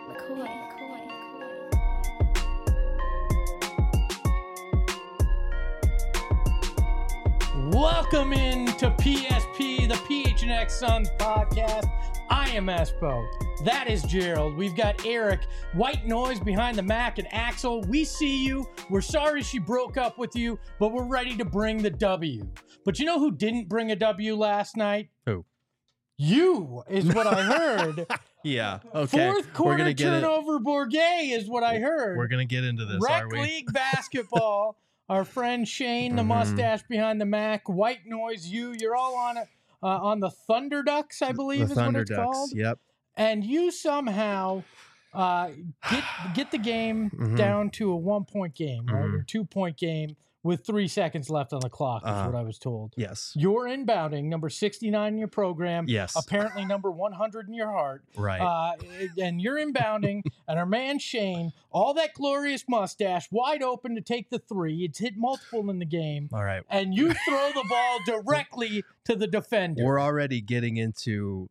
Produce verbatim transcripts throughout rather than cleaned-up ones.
McCoy, McCoy, McCoy. Welcome into P S P, the P H N X Suns podcast. I am Espo. That is Gerald. We've got Eric, White Noise behind the Mac, and Axel. We see you. We're sorry she broke up with you, but we're ready to bring the W. But you know who didn't bring a W last night? Who? You is what I heard. Yeah. Okay. Fourth quarter turnover, Bourget is what I heard. We're gonna get into this. Rec are we? League basketball. Our friend Shane, the Mhm. mustache behind the Mac, White Noise, you, you're all on it uh, on the Thunder Ducks, I believe The is Thunder what it's Ducks. called. Yep. And you somehow uh, get get the game Mhm. down to a one point game, right, Mhm. or two point game with three seconds left on the clock. Is Uh-huh. what I was told. Yes. You're inbounding, number sixty-nine in your program. Yes. Apparently number one hundred in your heart. Right. Uh, and you're inbounding, and our man Shane, all that glorious mustache, wide open to take the three. It's hit multiple in the game, All right. and you throw the ball directly to the defender. We're already getting into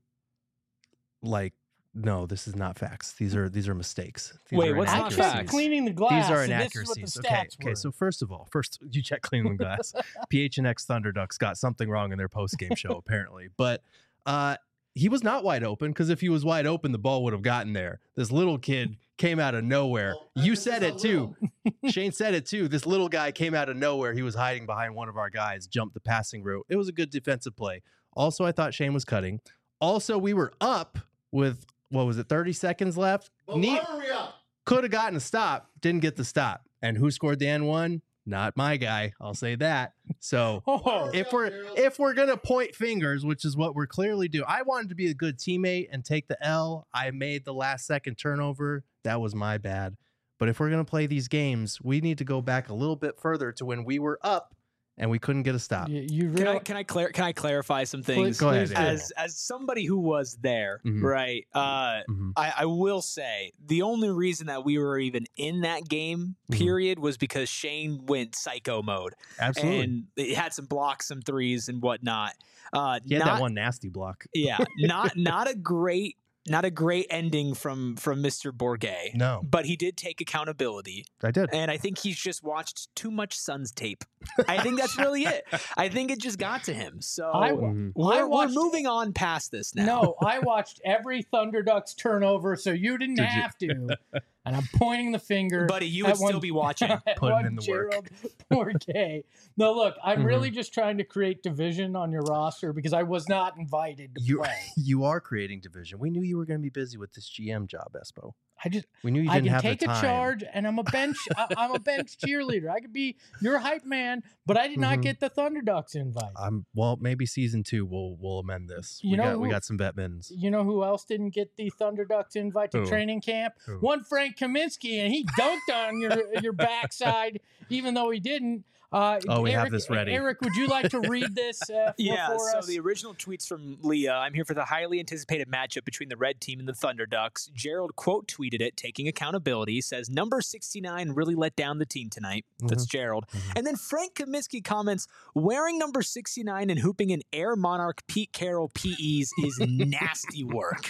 like no, this is not facts. These are these are mistakes. These Wait, are what's I not checked facts? cleaning the glass. These are and this is what the inaccuracies. Okay. stats Okay. were. So first of all, first you check cleaning the glass. P H N X Thunder Ducks got something wrong in their post game show apparently, but uh, he was not wide open because if he was wide open, the ball would have gotten there. This little kid came out of nowhere. You said it too. Shane said it too. This little guy came out of nowhere. He was hiding behind one of our guys, jumped the passing route. It was a good defensive play. Also, I thought Shane was cutting. Also, we were up with, what was it, thirty seconds left? Neat. Could have gotten a stop. Didn't get the stop. And who scored the N one? Not my guy. I'll say that. So Oh, if we're if we're gonna point fingers, which is what we're clearly doing, I wanted to be a good teammate and take the L. I made the last second turnover. That was my bad. But if we're gonna play these games, we need to go back a little bit further to when we were up and we couldn't get a stop. you, you Can I really, can I clar- can I clarify some things? Go ahead. please yeah. do. As as somebody who was there, Mhm. right? Uh, Mhm. I, I will say the only reason that we were even in that game, Mhm. period, was because Shane went psycho mode Absolutely. and it had some blocks, some threes, and whatnot. Uh, he had not, that one nasty block. yeah, not not a great not a great ending from from Mister Bourget. No, But he did take accountability. I did. And I think he's just watched too much Suns tape. I think that's really it. I think it just got to him. So I, Mhm. we're, I we're watched- moving on past this now. No, I watched every Thunder Ducks turnover, so you didn't Did you? have to. And I'm pointing the finger. Buddy, you at would still one- be watching. at Putting one in the work. Gerald Bourget. No, look, I'm Mhm. really just trying to create division on your roster because I was not invited to You play. you are creating division. We knew you were going to be busy with this G M job, Espo. I just We knew you I didn't can have take the a time. charge, and I'm a bench. I, I'm a bench cheerleader. I could be your hype man, but I did not Mhm. get the Thunder Ducks invite. Um, well, maybe season two we'll we'll amend this. You we know got we who- got some vet mins. You know who else didn't get the Thunder Ducks invite to Who? training camp? Who? One Frank Kaminsky, and he dunked on your your backside, even though he didn't. Uh, Oh, we have Eric, this ready. Eric, would you like to read this? Uh, Yeah, for so us? the original tweets from Leah. I'm here for the highly anticipated matchup between the red team and the Thunder Ducks. Gerald quote tweeted it, taking accountability, says, number sixty-nine really let down the team tonight. That's Gerald. Mhm. And then Frank Kaminsky comments, wearing number sixty-nine and hooping in Air Monarch Pete Carroll P Es is nasty work.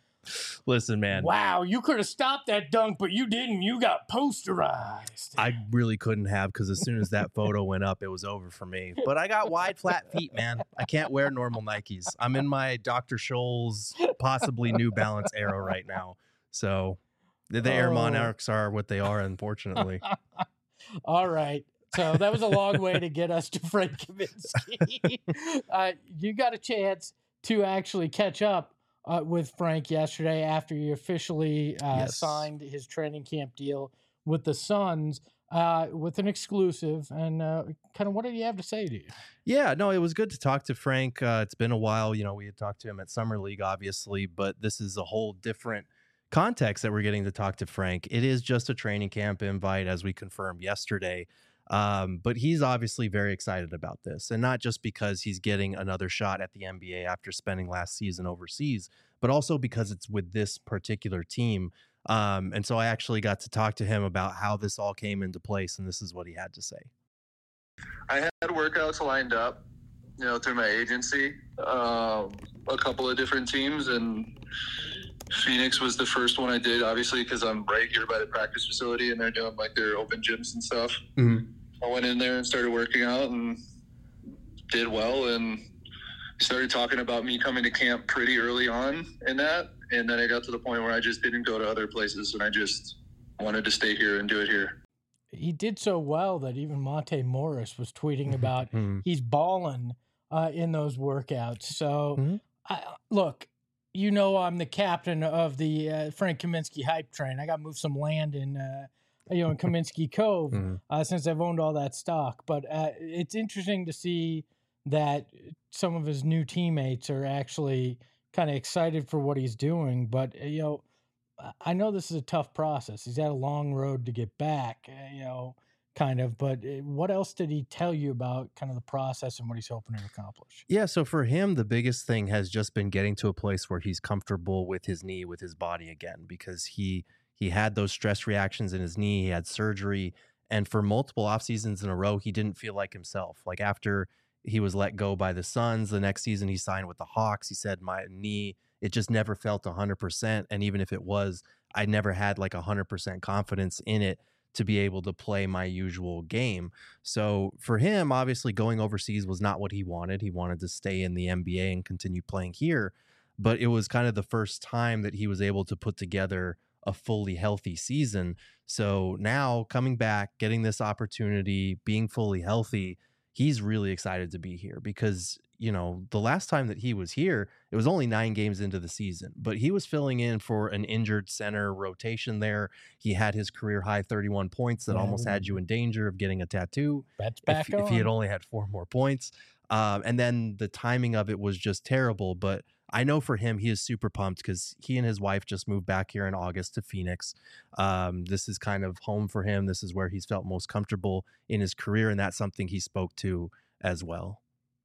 Listen, man, Wow, you could have stopped that dunk, but you didn't. You got posterized. I really couldn't have because as soon as that photo went up, it was over for me. But I got wide, flat feet, man. I can't wear normal Nikes. I'm in my Doctor Scholl's possibly New Balance era right now. So the, the Air Oh. Monarchs are what they are, unfortunately. All right. So that was a long way to get us to Frank Kaminsky. uh, you got a chance to actually catch up uh, with Frank yesterday after he officially uh, Yes. signed his training camp deal with the Suns uh, with an exclusive. And uh, kind of what did he have to say to you? Yeah, no, it was good to talk to Frank. Uh, it's been a while. You know, we had talked to him at Summer League, obviously, but this is a whole different context that we're getting to talk to Frank. It is just a training camp invite, as we confirmed yesterday. Um, but he's obviously very excited about this, and not just because he's getting another shot at the N B A after spending last season overseas, but also because it's with this particular team. Um, and so I actually got to talk to him about how this all came into place, and this is what he had to say. I had workouts lined up, you know, through my agency, um, a couple of different teams, and Phoenix was the first one I did, obviously, because I'm right here by the practice facility, and they're doing like their open gyms and stuff. Mm-hmm. I went in there and started working out and did well, and started talking about me coming to camp pretty early on in that. And then I got to the point where I just didn't go to other places, and I just wanted to stay here and do it here. He did so well that even Monte Morris was tweeting about Mm-hmm. he's balling uh, in those workouts. So, Mm-hmm. I, look, you know I'm the captain of the uh, Frank Kaminsky hype train. I got to move some land in, uh, you know, in Kaminsky Cove Mm-hmm. uh, since I've owned all that stock. But uh, it's interesting to see that some of his new teammates are actually kind of excited for what he's doing. But, uh, you know, I know this is a tough process. He's had a long road to get back, uh, you know, kind of. But uh, what else did he tell you about kind of the process and what he's hoping to accomplish? Yeah, so for him, the biggest thing has just been getting to a place where he's comfortable with his knee, with his body again, because he he had those stress reactions in his knee. He had surgery, and for multiple off seasons in a row, he didn't feel like himself. Like after he was let go by the Suns, the next season he signed with the Hawks. He said, my knee, it just never felt one hundred percent, and even if it was, I never had like one hundred percent confidence in it to be able to play my usual game. So for him, obviously going overseas was not what he wanted. He wanted to stay in the N B A and continue playing here. But it was kind of the first time that he was able to put together a fully healthy season. So now coming back, getting this opportunity, being fully healthy, he's really excited to be here because, you know, the last time that he was here, it was only nine games into the season, but he was filling in for an injured center rotation there. He had his career high thirty-one points that Yeah, almost had you in danger of getting a tattoo That's back if, on. if he had only had four more points. Um, and then the timing of it was just terrible. But I know for him, he is super pumped because he and his wife just moved back here in August to Phoenix. Um, this is kind of home for him. This is where he's felt most comfortable in his career. And that's something he spoke to as well.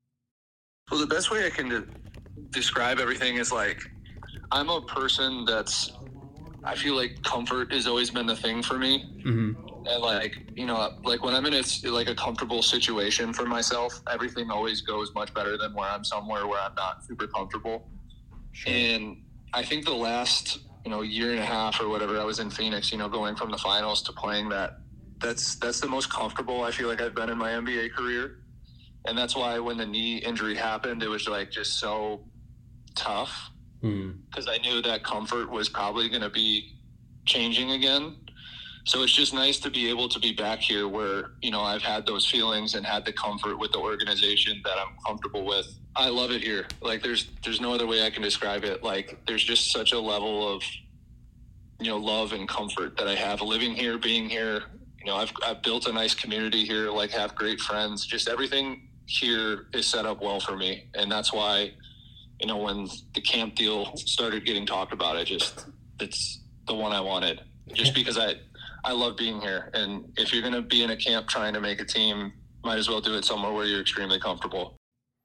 Well, the best way I can de- describe everything is like, I'm a person that's, I feel like comfort has always been the thing for me. Mm-hmm. And like, you know, like when I'm in a, like a comfortable situation for myself, everything always goes much better than where I'm somewhere where I'm not super comfortable. Sure. And I think the last, you know, year and a half or whatever I was in Phoenix, you know, going from the finals to playing that, that's, that's the most comfortable I feel like I've been in my N B A career. And that's why when the knee injury happened, it was like just so tough because mm. I knew that comfort was probably going to be changing again. So it's just nice to be able to be back here where, you know, I've had those feelings and had the comfort with the organization that I'm comfortable with. I love it here. Like there's, there's no other way I can describe it. Like there's just such a level of, you know, love and comfort that I have living here, being here. You know, I've, I've built a nice community here, like have great friends, just everything here is set up well for me. And that's why, you know, when the camp deal started getting talked about, I just, it's the one I wanted just because I, I love being here. And if you're going to be in a camp trying to make a team, might as well do it somewhere where you're extremely comfortable.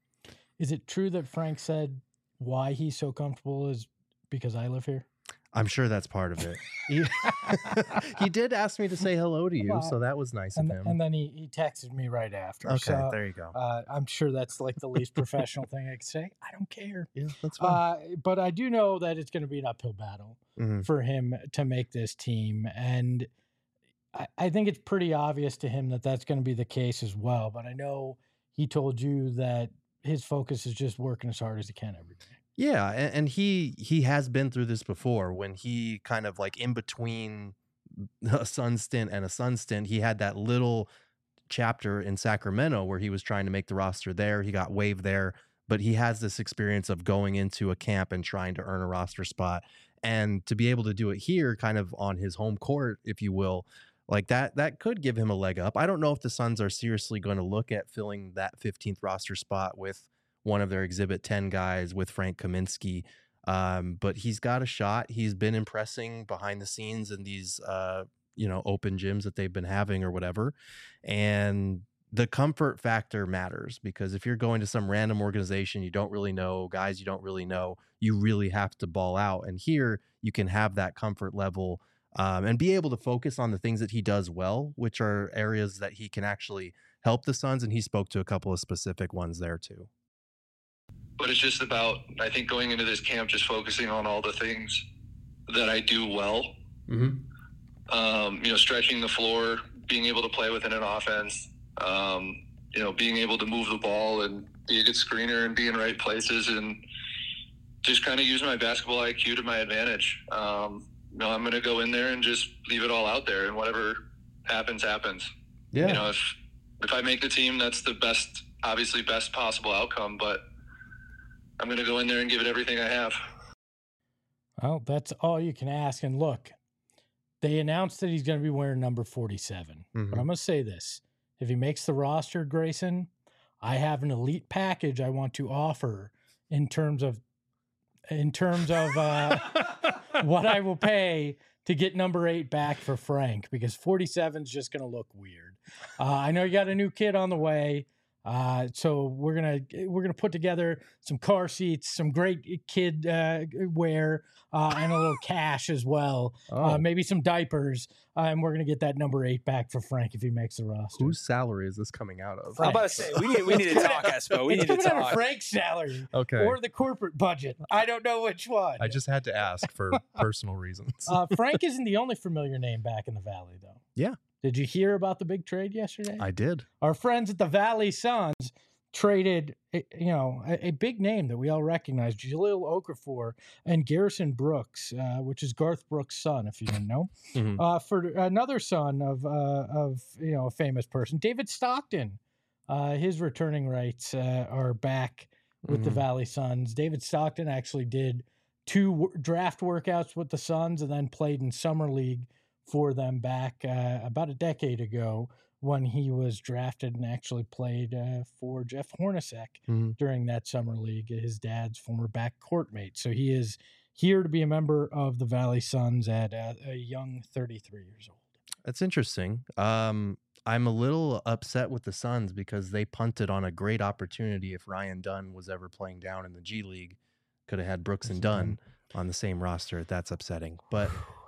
Is it true that Frank said why he's so comfortable is because I live here? I'm sure that's part of it. He, he did ask me to say hello to you, so that was nice and, of him. And then he, he texted me right after. Okay, so, there you go. Uh, I'm sure that's like the least professional thing I could say. I don't care. Yeah, that's fine. Uh, but I do know that it's going to be an uphill battle mm-hmm. for him to make this team. And I, I think it's pretty obvious to him that that's going to be the case as well. But I know he told you that his focus is just working as hard as he can every day. Yeah, and, and he he has been through this before when he kind of like in between a Sun stint and a Sun stint, he had that little chapter in Sacramento where he was trying to make the roster there. He got waived there, but he has this experience of going into a camp and trying to earn a roster spot. And to be able to do it here kind of on his home court, if you will, like that, that could give him a leg up. I don't know if the Suns are seriously going to look at filling that fifteenth roster spot with one of their Exhibit ten guys with Frank Kaminsky. Um, but he's got a shot. He's been impressing behind the scenes in these, uh, you know, open gyms that they've been having or whatever. And the comfort factor matters because if you're going to some random organization, you don't really know, guys you don't really know, you really have to ball out. And here you can have that comfort level um, and be able to focus on the things that he does well, which are areas that he can actually help the Suns. And he spoke to a couple of specific ones there too. But it's just about, I think, going into this camp, just focusing on all the things that I do well. Mm-hmm. Um, you know, stretching the floor, being able to play within an offense, um, you know, being able to move the ball and be a good screener and be in right places and just kind of use my basketball I Q to my advantage. Um, you know, I'm going to go in there and just leave it all out there, and whatever happens, happens. Yeah. You know, if, if I make the team, that's the best, obviously best possible outcome, but I'm going to go in there and give it everything I have. Well, that's all you can ask. And look, they announced that he's going to be wearing number forty-seven. Mm-hmm. But I'm going to say this. If he makes the roster, Grayson, I have an elite package I want to offer in terms of in terms of uh, what I will pay to get number eight back for Frank, because forty-seven is just going to look weird. Uh, I know you got a new kid on the way. Uh, so we're gonna we're gonna put together some car seats, some great kid uh, wear, uh, and a little cash as well. Oh. Uh, maybe some diapers, uh, and we're gonna get that number eight back for Frank if he makes the roster. Whose salary is this coming out of? I'm about to say we need we need to talk, Espo. We it's need to coming out of talk. Frank's salary Okay. or the corporate budget. I don't know which one. I just had to ask for personal reasons. uh, Frank isn't the only familiar name back in the Valley, though. Yeah. Did you hear about the big trade yesterday? I did. Our friends at the Valley Suns traded, you know, a, a big name that we all recognize, Jahlil Okafor and Garrison Brooks, uh, which is Garth Brooks' son, if you didn't know, Mhm. uh, for another son of, uh, of you know, a famous person, David Stockton. Uh, his returning rights uh, are back with the Mhm. Valley Suns. David Stockton actually did two w- draft workouts with the Suns and then played in Summer League for them back uh, about a decade ago when he was drafted and actually played uh, for Jeff Hornacek Mhm. during that Summer League, his dad's former backcourt mate. So he is here to be a member of the Valley Suns at uh, a young thirty-three years old. That's interesting. Um, I'm a little upset with the Suns because they punted on a great opportunity. If Ryan Dunn was ever playing down in the G League, could have had Brooks and Dunn on the same roster. That's upsetting. But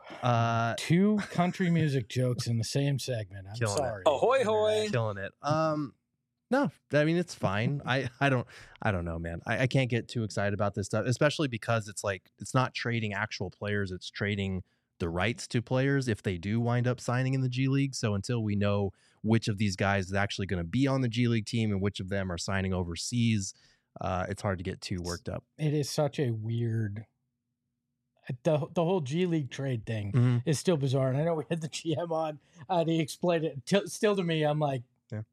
uh, Two country music jokes in the same segment. I'm Killing it. sorry. Ahoy, hoy. killing it. Um, no, I mean it's fine. I, I don't I don't know, man. I, I can't get too excited about this stuff, especially because it's like it's not trading actual players. It's trading the rights to players if they do wind up signing in the G League. So until we know which of these guys is actually going to be on the G League team and which of them are signing overseas, uh, it's hard to get too worked up. It is such a weird. The, the whole G League trade thing Mm-hmm. is still bizarre. And I know we had the G M on uh, and he explained it. T- still to me, I'm like, Yeah.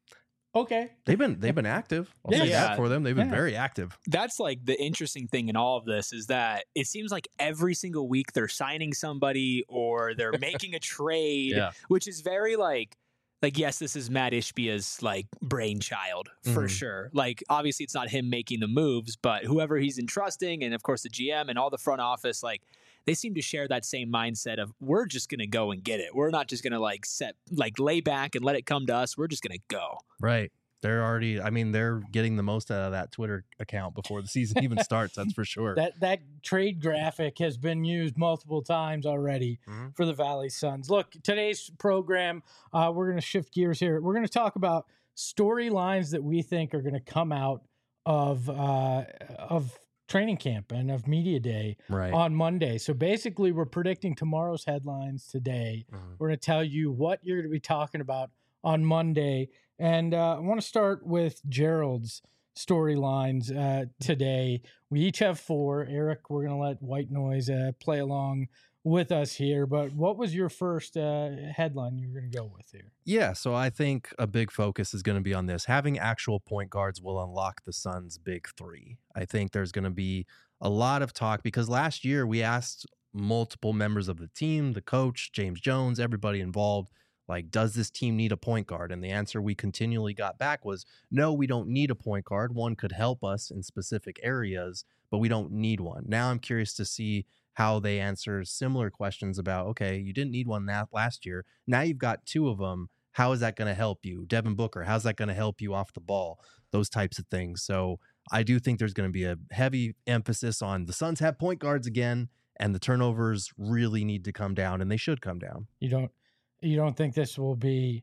okay. They've been they've been active. I'll say Yeah. that for them. They've been Yeah. very active. That's like the interesting thing in all of this is that it seems like every single week they're signing somebody or they're making a trade, Yeah. which is very like, like, yes, this is Matt Ishbia's like brainchild for Mhm. sure. Like, obviously it's not him making the moves, but whoever he's entrusting, and of course the G M and all the front office, like they seem to share that same mindset of we're just gonna go and get it. We're not just gonna like set like lay back and let it come to us. We're just gonna go. Right. They're already, I mean, they're getting the most out of that Twitter account before the season even starts. That's for sure. That that trade graphic has been used multiple times already Mhm. for the Valley Suns. Look, today's program, uh, we're going to shift gears here. We're going to talk about storylines that we think are going to come out of uh, of training camp and of media day Right. on Monday. So basically, we're predicting tomorrow's headlines today. Mhm. We're going to tell you what you're going to be talking about on Monday. And uh, I want to start with Gerald's storylines uh, today. We each have four. Eric, we're going to let White Noise uh, play along with us here. But what was your first uh, headline you were going to go with here? Yeah, so I think a big focus is going to be on this. Having actual point guards will unlock the Suns' big three. I think there's going to be a lot of talk because last year we asked multiple members of the team, the coach, James Jones, everybody involved, like, does this team need a point guard? And the answer we continually got back was, no, we don't need a point guard. One could help us in specific areas, but we don't need one. Now I'm curious to see how they answer similar questions about, okay, you didn't need one that last year. Now you've got two of them. How is that going to help you? Devin Booker, how's that going to help you off the ball? Those types of things. So I do think there's going to be a heavy emphasis on the Suns have point guards again, and the turnovers really need to come down, and they should come down. You don't you don't think this will be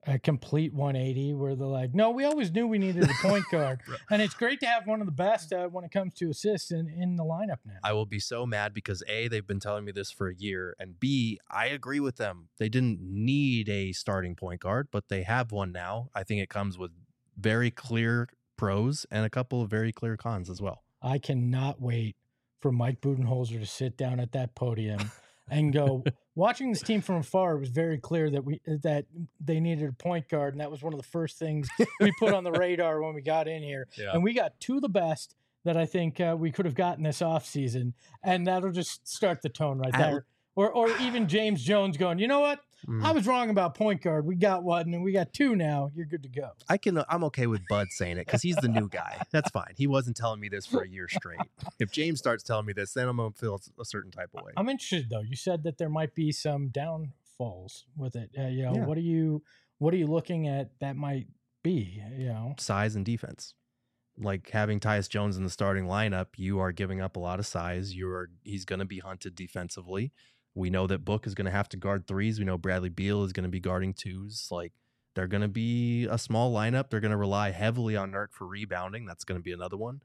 a complete one eighty where they're like, no, we always knew we needed a point guard. And it's great to have one of the best uh, when it comes to assists in, in the lineup now. I will be so mad because A, they've been telling me this for a year, and B, I agree with them. They didn't need a starting point guard, but they have one now. I think it comes with very clear pros and a couple of very clear cons as well. I cannot wait for Mike Budenholzer to sit down at that podium and go, watching this team from afar, it was very clear that we that they needed a point guard, and that was one of the first things we put on the radar when we got in here. Yeah. And we got two of the best that I think uh, we could have gotten this offseason, and that'll just start the tone right there. Or or even James Jones going, you know what? Mm. I was wrong about point guard. We got one, and we got two now. You're good to go. I can. I'm okay with Bud saying it because he's the new guy. That's fine. He wasn't telling me this for a year straight. If James starts telling me this, then I'm gonna feel a certain type of way. I'm interested though. You said that there might be some downfalls with it. Uh, you know, yeah. what are you what are you looking at that might be? You know, size and defense. Like having Tyus Jones in the starting lineup, you are giving up a lot of size. You're he's going to be hunted defensively. We know that Book is going to have to guard threes. We know Bradley Beal is going to be guarding twos. Like they're going to be a small lineup. They're going to rely heavily on Nurk for rebounding. That's going to be another one.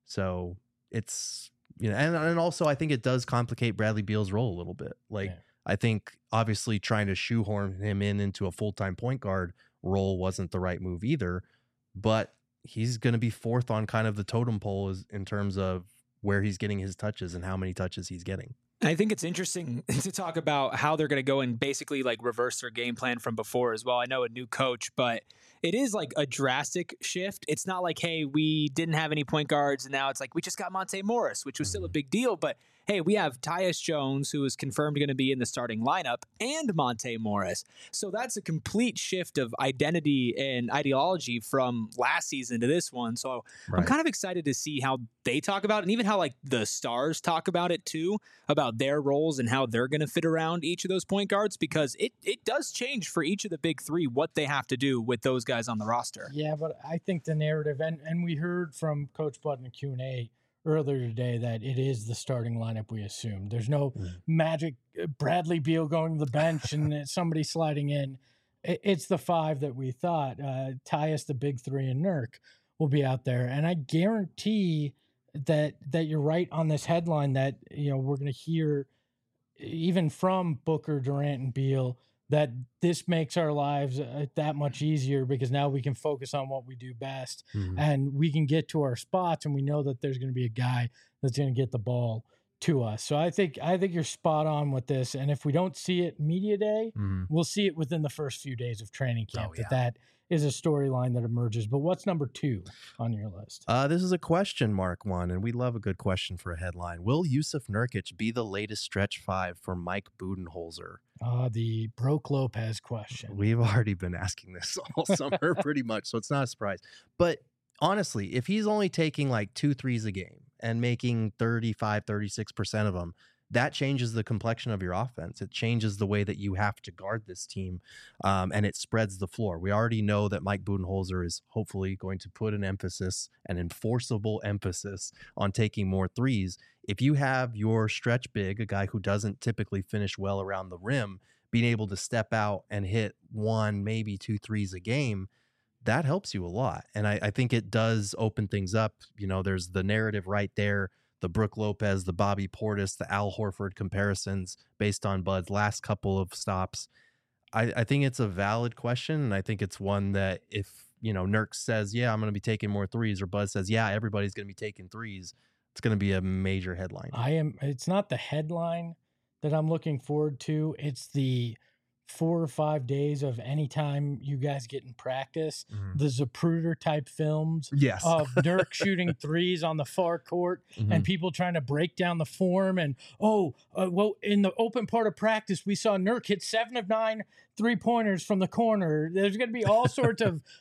So it's, you know, and, and also I think it does complicate Bradley Beal's role a little bit. Like yeah. I think obviously trying to shoehorn him in into a full-time point guard role wasn't the right move either, but he's going to be fourth on kind of the totem pole is, in terms of where he's getting his touches and how many touches he's getting. I think it's interesting to talk about how they're going to go and basically like reverse their game plan from before as well. I know a new coach, but it is like a drastic shift. It's not like, hey, we didn't have any point guards and now it's like we just got Monte Morris, which was still a big deal. But hey, we have Tyus Jones, who is confirmed going to be in the starting lineup, and Monte Morris. So that's a complete shift of identity and ideology from last season to this one. So right. I'm kind of excited to see how they talk about it, and even how like the stars talk about it too, about their roles and how they're going to fit around each of those point guards, because it, it does change for each of the big three what they have to do with those guys on the roster. Yeah, but I think the narrative, and, and we heard from Coach Bud in the Q and A earlier today that it is the starting lineup we assume. There's no mm. magic Bradley Beal going to the bench and somebody sliding in. It's the five that we thought. Uh, Tyus, the big three, and Nurk will be out there. And I guarantee that that you're right on this headline that, you know, we're going to hear even from Booker, Durant, and Beal that this makes our lives uh, that much easier because now we can focus on what we do best mm-hmm. and we can get to our spots, and we know that there's going to be a guy that's going to get the ball to us. So I think I think you're spot on with this, and if we don't see it media day, mm-hmm. we'll see it within the first few days of training camp. Oh, yeah. That that is a storyline that emerges. But what's number two on your list? Uh, this is a question mark one, and we love a good question for a headline. Will Jusuf Nurkic be the latest stretch five for Mike Budenholzer? Uh, the Brook Lopez question. We've already been asking this all summer pretty much, so it's not a surprise. But honestly, if he's only taking like two threes a game and making thirty-five, thirty-six percent of them, that changes the complexion of your offense. It changes the way that you have to guard this team, um, and it spreads the floor. We already know that Mike Budenholzer is hopefully going to put an emphasis, an enforceable emphasis, on taking more threes. If you have your stretch big, a guy who doesn't typically finish well around the rim, being able to step out and hit one, maybe two threes a game, that helps you a lot. And I, I think it does open things up. You know, there's the narrative right there, the Brook Lopez, the Bobby Portis, the Al Horford comparisons based on Bud's last couple of stops. I, I think it's a valid question, and I think it's one that if, you know, Nurk says, yeah, I'm going to be taking more threes, or Bud says, yeah, everybody's going to be taking threes, it's going to be a major headline. I am. It's not the headline that I'm looking forward to. It's the four or five days of any time you guys get in practice, mm-hmm. the Zapruder type films yes. of Nurk shooting threes on the far court mm-hmm. and people trying to break down the form. And, oh, uh, well, in the open part of practice, we saw Nurk hit seven of nine three pointers from the corner. There's going to be all sorts of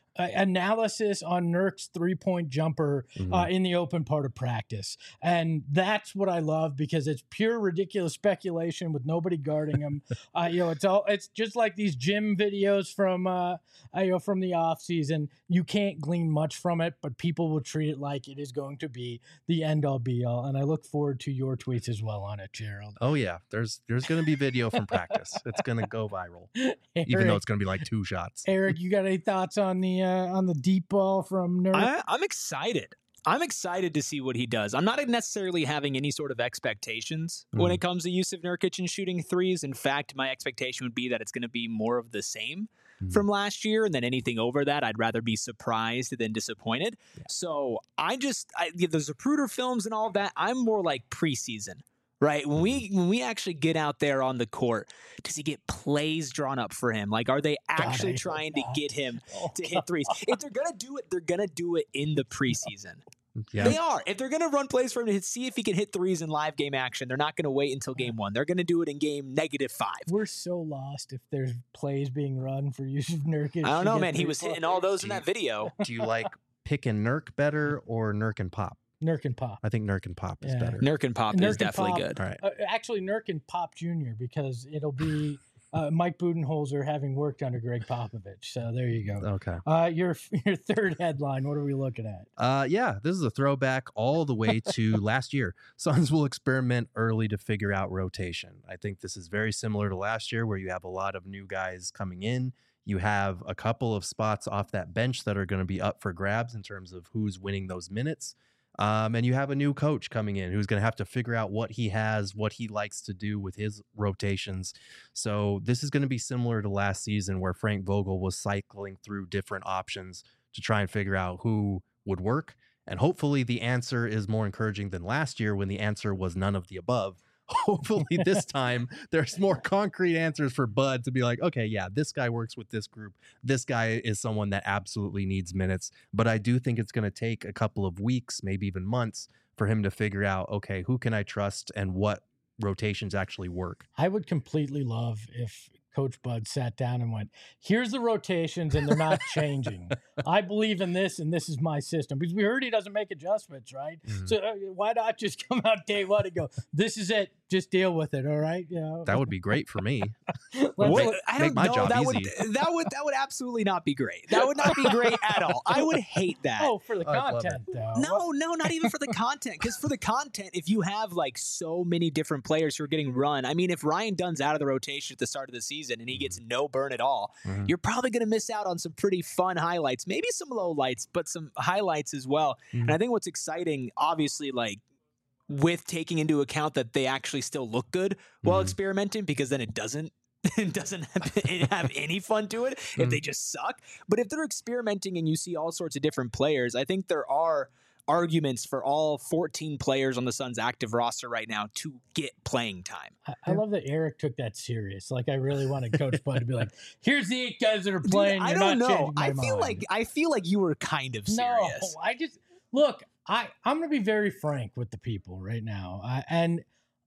uh, analysis on Nurk's three-point jumper Mhm. uh, in the open part of practice. And that's what I love because it's pure ridiculous speculation with nobody guarding him. uh, you know, it's all it's just like these gym videos from uh, uh, you know from the off season. You can't glean much from it, but people will treat it like it is going to be the end all be all. And I look forward to your tweets as well on it, Gerald. Oh yeah, there's there's going to be video from practice. It's going to go viral, even though it's going to be like two shots. Eric, you got any thoughts on the uh, on the deep ball from Nurk? I, I'm excited. I'm excited to see what he does. I'm not necessarily having any sort of expectations mm. when it comes to Yusuf Nurkic and shooting threes. In fact, my expectation would be that it's going to be more of the same mm. from last year, and then anything over that, I'd rather be surprised than disappointed. Yeah. So I just, I, the Zapruder films and all of that, I'm more like preseason. Right. When we when we actually get out there on the court, does he get plays drawn up for him? Like, are they actually God, trying to get him oh, to hit threes? If they're gonna do it, they're gonna do it in the preseason. Yeah. They are. If they're gonna run plays for him to see if he can hit threes in live game action, they're not gonna wait until game one. They're gonna do it in game negative five. We're so lost if there's plays being run for Yusuf Nurkic. I don't know, man. He was hitting all those in that video. Do you like Pick and Nurk better or Nurk and Pop? Nurk and Pop. I think Nurk and Pop is yeah. better. Nurk and Pop Nurk is definitely Pop, good. All right. Uh, actually, Nurk and Pop Junior because it'll be uh, Mike Budenholzer having worked under Greg Popovich. So there you go. Okay. Uh, your your third headline. What are we looking at? Uh, yeah, this is a throwback all the way to last year. Suns will experiment early to figure out rotation. I think this is very similar to last year, where you have a lot of new guys coming in. You have a couple of spots off that bench that are going to be up for grabs in terms of who's winning those minutes. Um, and you have a new coach coming in who's going to have to figure out what he has, what he likes to do with his rotations. So this is going to be similar to last season where Frank Vogel was cycling through different options to try and figure out who would work. And hopefully the answer is more encouraging than last year when the answer was none of the above. Hopefully this time there's more concrete answers for Bud to be like, okay, yeah, this guy works with this group. This guy is someone that absolutely needs minutes. But I do think it's going to take a couple of weeks, maybe even months, for him to figure out, okay, who can I trust and what rotations actually work. I would completely love if Coach Bud sat down and went, here's the rotations and they're not changing. I believe in this and this is my system. Because we heard he doesn't make adjustments, right? Mm-hmm. So uh, why not just come out day one and go, this is it. Just deal with it, all right? You know? That would be great for me. What? I don't make my know. job that easy. Would, that would that would absolutely not be great. That would not be great at all. I would hate that. Oh, for the content, though. No, no, not even for the content. Because for the content, if you have like so many different players who are getting run, I mean, if Ryan Dunn's out of the rotation at the start of the season and he gets no burn at all, mm-hmm. you're probably going to miss out on some pretty fun highlights, maybe some low lights, but some highlights as well. Mm-hmm. And I think what's exciting, obviously, like, with taking into account that they actually still look good while mm-hmm. experimenting, because then it doesn't it doesn't have, have any fun to it if mm-hmm. they just suck. But if they're experimenting and you see all sorts of different players, I think there are arguments for all fourteen players on the Suns active roster right now to get playing time. I, I love that Eric took that serious. Like, I really wanted Coach Bud to be like, here's the eight guys that are playing. Dude, I You're don't not know. my I feel mind. like I feel like you were kind of serious. No, I just look. I, I'm going to be very frank with the people right now. I, and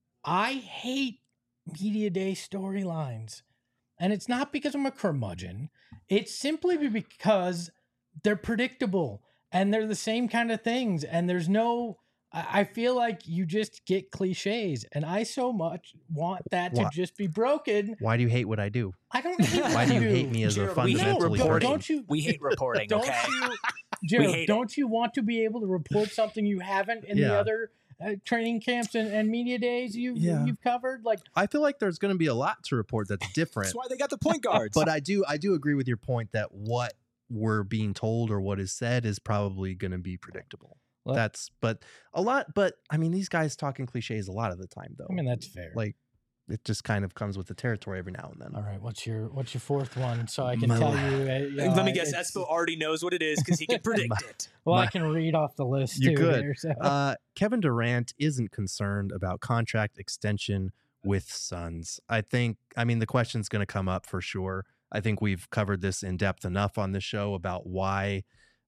I hate media day storylines. And it's not because I'm a curmudgeon. It's simply because they're predictable and they're the same kind of things. And there's no, I, I feel like you just get cliches. And I so much want that to what? just be broken. Why do you hate what I do? I don't hate what Why do you do. hate me as Gerald, a fundamentally we hate reporting. Don't you, we hate reporting, don't okay? You, Gerald, don't you want to be able to report something you haven't in yeah. the other uh, training camps and, and media days you've, yeah. you've covered? Like, I feel like there's going to be a lot to report that's different. That's why they got the point guards. But I do, I do agree with your point that what we're being told or what is said is probably going to be predictable. Well, that's, but a lot, but I mean, these guys talking cliches a lot of the time, though. I mean, that's fair. Like, it just kind of comes with the territory every now and then. All right, what's your what's your fourth one? So I can My tell la- you. Uh, you know, Let me guess, it's- Espo already knows what it is because he can predict My- it. Well, My- I can read off the list. You too could. Here, so. Uh, Kevin Durant isn't concerned about contract extension with Suns. I think, I mean, the question's going to come up for sure. I think we've covered this in depth enough on this show about why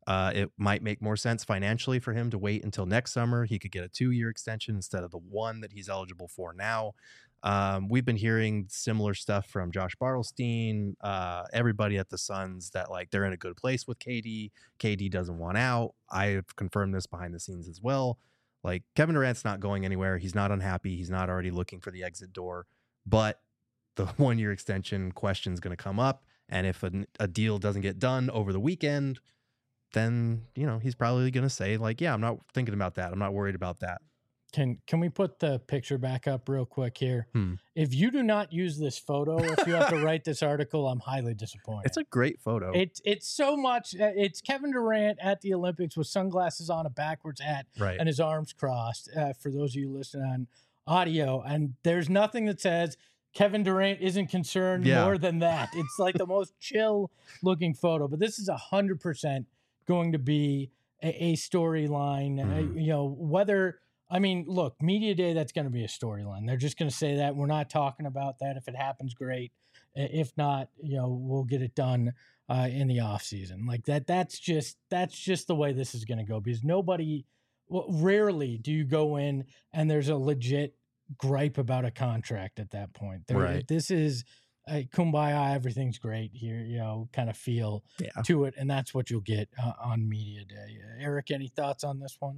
Uh, it might make more sense financially for him to wait until next summer. He could get a two-year extension instead of the one that he's eligible for now. Um, we've been hearing similar stuff from Josh Bartelstein, uh, everybody at the Suns, that like they're in a good place with K D. K D doesn't want out. I've confirmed this behind the scenes as well. Like, Kevin Durant's not going anywhere. He's not unhappy. He's not already looking for the exit door. But the one-year extension question is going to come up. And if a, a deal doesn't get done over the weekend, then, you know, he's probably going to say, like, yeah, I'm not thinking about that. I'm not worried about that. Can can we put the picture back up real quick here? Hmm. If you do not use this photo, if you have to write this article, I'm highly disappointed. It's a great photo. It's it's so much. uh, It's Kevin Durant at the Olympics with sunglasses on, a backwards hat, right. and his arms crossed. Uh, for those of you listening on audio, and there's nothing that says Kevin Durant isn't concerned Yeah. more than that. It's like the most chill looking photo. But this is a hundred percent going to be a, a storyline. Mhm. Uh, you know, whether. I mean, look, media day, that's going to be a storyline. They're just going to say that. We're not talking about that. If it happens, great. If not, you know, we'll get it done uh, in the off season. Like that, that's just, that's just the way this is going to go, because nobody, well, rarely do you go in and there's a legit gripe about a contract at that point. There, Right. This is a kumbaya, everything's great here, you know, kind of feel Yeah. to it. And that's what you'll get uh, on media day. Uh, Eric, any thoughts on this one?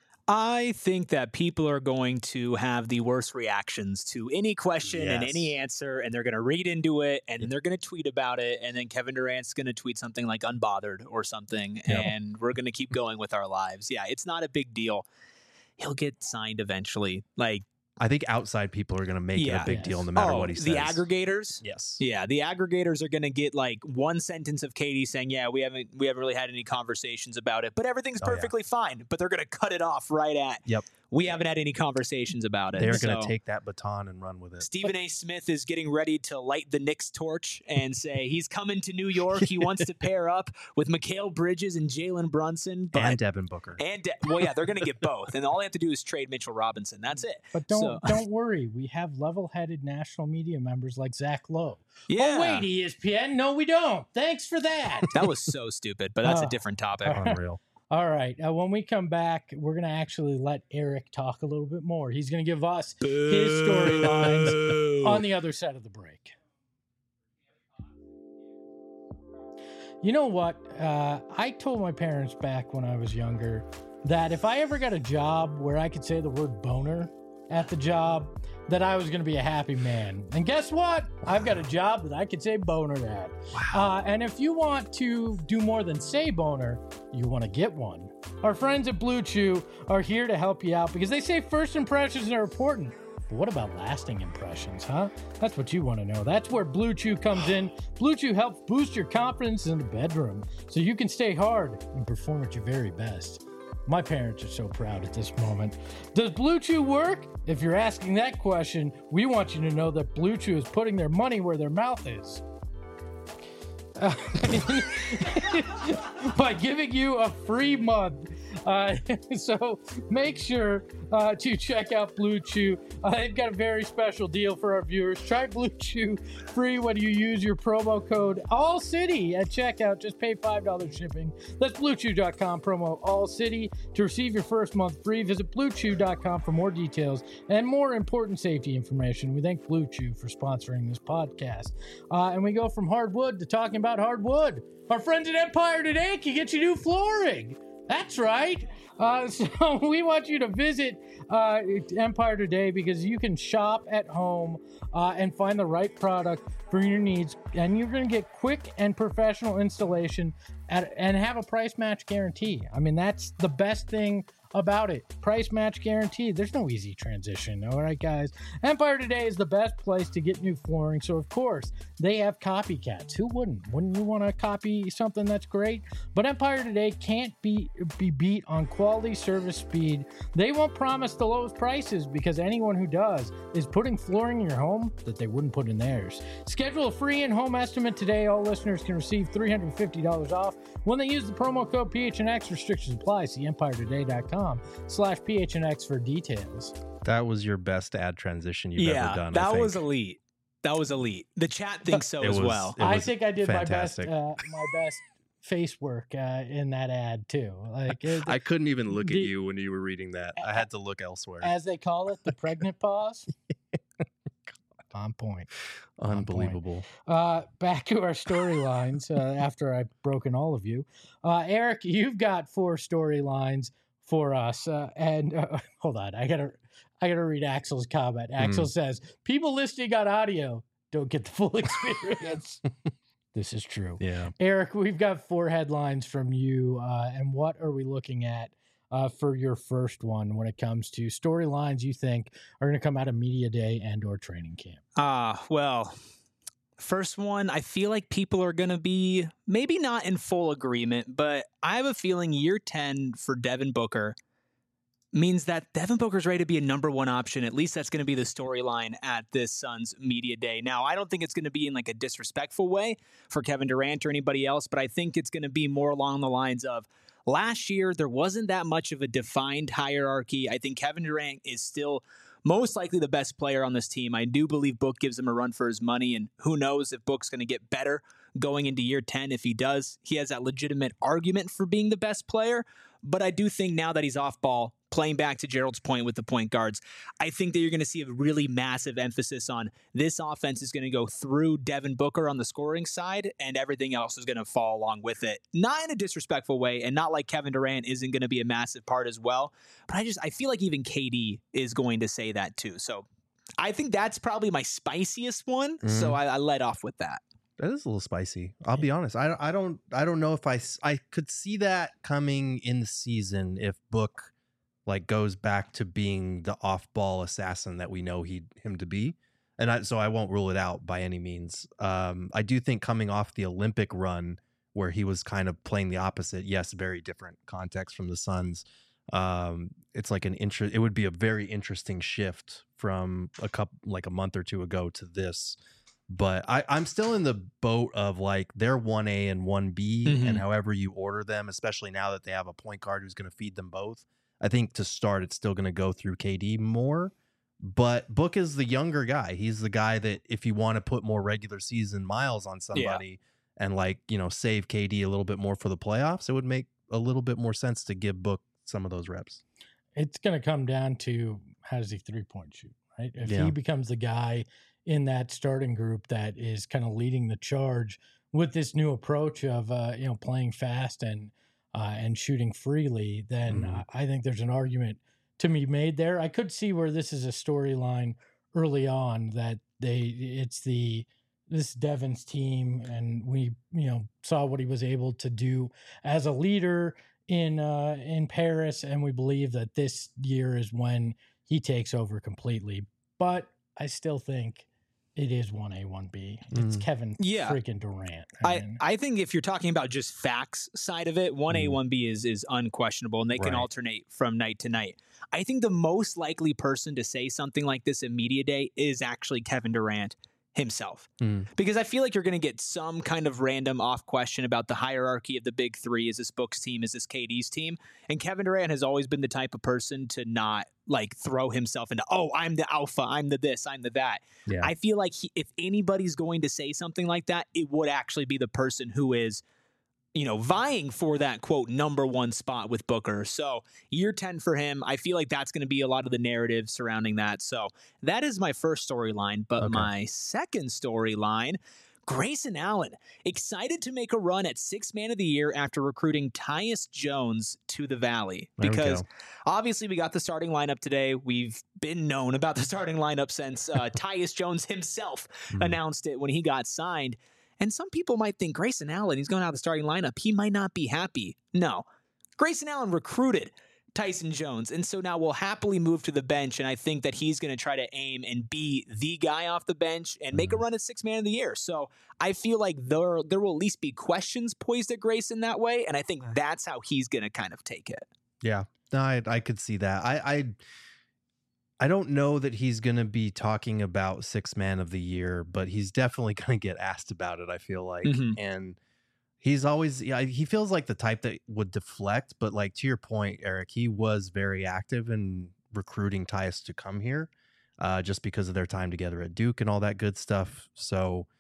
I think that people are going to have the worst reactions to any question and Yes. any answer, and they're going to read into it, and then they're going to tweet about it, and then Kevin Durant's going to tweet something like unbothered or something, Yeah. and we're going to keep going with our lives. Yeah, it's not a big deal. He'll get signed eventually. Like, I think outside people are going to make it Yeah. a big Yes. deal no matter oh, what he says. the aggregators. Yes. Yeah, the aggregators are going to get like one sentence of Katie saying, "Yeah, we haven't we haven't really had any conversations about it, but everything's Oh, yeah. perfectly fine." But they're going to cut it off right at, Yep. "We haven't had any conversations about it." They're going to So, take that baton and run with it. Stephen A. Smith is getting ready to light the Knicks torch and say he's coming to New York. He wants to pair up with Mikal Bridges and Jalen Brunson, but And Devin Booker. and De- well, yeah, they're going to get both, and all they have to do is trade Mitchell Robinson. That's it. But don't So- don't worry, we have level-headed national media members like Zach Lowe. Yeah, Oh wait, E S P N? No, we don't. Thanks for that. that was so stupid, but that's Oh. a different topic. Unreal. All right, uh, when we come back, we're gonna actually let Eric talk a little bit more. He's gonna give us his storylines on the other side of the break. You know what? Uh, I told my parents back when I was younger that if I ever got a job where I could say the word boner at the job, that I was going to be a happy man. And guess what? I've got a job that I could say boner at. Uh, and if you want to do more than say boner, you want to get one. Our friends at Blue Chew are here to help you out because they say first impressions are important. But what about lasting impressions, huh? That's what you want to know. That's where Blue Chew comes in. Blue Chew helps boost your confidence in the bedroom so you can stay hard and perform at your very best. My parents are so proud at this moment. Does Blue Chew work? If you're asking that question, we want you to know that Blue Chew is putting their money where their mouth is. Uh, by giving you a free month. Uh, so make sure uh, to check out Blue Chew. Uh, they've got a very special deal for our viewers. Try Blue Chew free when you use your promo code ALLCITY at checkout. Just pay five dollars shipping. That's blue chew dot com, promo ALLCITY. To receive your first month free, visit blue chew dot com for more details and more important safety information. We thank Blue Chew for sponsoring this podcast. Uh, and we go from hardwood to talking about hardwood. Our friends at Empire Today can get you new flooring. That's right. Uh, so we want you to visit uh, Empire Today because you can shop at home uh, and find the right product for your needs. And you're going to get quick and professional installation at, and have a price match guarantee. I mean, that's the best thing about it. Price match guarantee. There's no easy transition. All right, guys. Empire Today is the best place to get new flooring. So, of course, they have copycats. Who wouldn't? Wouldn't you want to copy something that's great? But Empire Today can't be, be beat on quality, service, speed. They won't promise the lowest prices because anyone who does is putting flooring in your home that they wouldn't put in theirs. Schedule a free in-home estimate today. All listeners can receive three hundred fifty dollars off when they use the promo code P H N X. Restrictions apply. See empire today dot com slash P H N X for details. That was your best ad transition you've yeah, ever done. that I think. was elite. That was elite. The chat thinks so It as was- well. It I was think I did fantastic. my best. Uh, my best face work uh, in that ad too. Like it, I couldn't even look the, at you when you were reading that. I had to look elsewhere. As they call it, the pregnant pause. On point. Unbelievable. Uh, back to our storylines uh, after I've broken all of you. Uh, Eric, you've got four storylines for us. Uh, and uh, hold on, I gotta, I gotta read Axel's comment. Axel mm. says, people listening on audio don't get the full experience. This is true. Yeah. Eric, we've got four headlines from you. Uh, and what are we looking at Uh, for your first one when it comes to storylines you think are going to come out of media day and or training camp? Ah, uh, well, first one, I feel like people are going to be maybe not in full agreement, but I have a feeling year ten for Devin Booker means that Devin Booker's ready to be a number one option. At least that's going to be the storyline at this Suns media day. Now, I don't think it's going to be in like a disrespectful way for Kevin Durant or anybody else, but I think it's going to be more along the lines of, last year, there wasn't that much of a defined hierarchy. I think Kevin Durant is still most likely the best player on this team. I do believe Book gives him a run for his money, and who knows if Book's going to get better going into year ten. If he does, he has that legitimate argument for being the best player. But I do think now that he's off ball, playing back to Gerald's point with the point guards, I think that you're going to see a really massive emphasis on this offense is going to go through Devin Booker on the scoring side, and everything else is going to fall along with it. Not in a disrespectful way, and not like Kevin Durant isn't going to be a massive part as well. But I just I feel like even K D is going to say that too. So I think that's probably my spiciest one. Mm-hmm. So I, I led off with that. That is a little spicy. I'll be honest. I, I don't I don't know if I I could see that coming in the season if Book like goes back to being the off-ball assassin that we know he him to be, and I, so I won't rule it out by any means. Um, I do think coming off the Olympic run where he was kind of playing the opposite. Yes, very different context from the Suns. Um, it's like an interest. It would be a very interesting shift from a couple like a month or two ago to this. But I, I'm still in the boat of like they're one A and one B, mm-hmm. and however you order them, especially now that they have a point guard who's going to feed them both. I think to start, it's still going to go through K D more. But Book is the younger guy. He's the guy that if you want to put more regular season miles on somebody yeah. and like, you know, save K D a little bit more for the playoffs, it would make a little bit more sense to give Book some of those reps. It's going to come down to how does he three-point shoot, right? If yeah. he becomes the guy in that starting group that is kind of leading the charge with this new approach of, uh, you know, playing fast and uh, and shooting freely, then mm-hmm. I think there's an argument to be made there. I could see where this is a storyline early on that they it's the this Devin's team, and we you know saw what he was able to do as a leader in uh, in Paris, and we believe that this year is when he takes over completely. But I still think it is one A, one B. It's mm. Kevin yeah. freaking Durant. I, I, mean, I think if you're talking about just facts side of it, one A, mm. one B is is unquestionable, and they can right. alternate from night to night. I think the most likely person to say something like this at Media Day is actually Kevin Durant himself. Mm. Because I feel like you're going to get some kind of random off question about the hierarchy of the big three. Is this Book's team? Is this K D's team? And Kevin Durant has always been the type of person to not like throw himself into, oh, I'm the alpha, I'm the this, I'm the that. Yeah. I feel like he, if anybody's going to say something like that, it would actually be the person who is, you know, vying for that, quote, number one spot with Booker. So year ten for him, I feel like that's going to be a lot of the narrative surrounding that. So that is my first storyline. But okay. my second storyline, Grayson Allen, excited to make a run at sixth man of the year after recruiting Tyus Jones to the Valley. Because we obviously we got the starting lineup today. We've been known about the starting lineup since uh, Tyus Jones himself mm. announced it when he got signed. And some people might think Grayson Allen, he's going out of the starting lineup, he might not be happy. No. Grayson Allen recruited Tyson Jones, and so now we'll happily move to the bench, and I think that he's going to try to aim and be the guy off the bench and make a run at sixth man of the year. So I feel like there, there will at least be questions poised at Grayson that way, and I think that's how he's going to kind of take it. Yeah, no, I, I could see that. I... I... I don't know that he's going to be talking about sixth man of the year, but he's definitely going to get asked about it, I feel like. Mm-hmm. And he's always, yeah, he feels like the type that would deflect, but like to your point, Eric, he was very active in recruiting Tyus to come here uh, just because of their time together at Duke and all that good stuff. So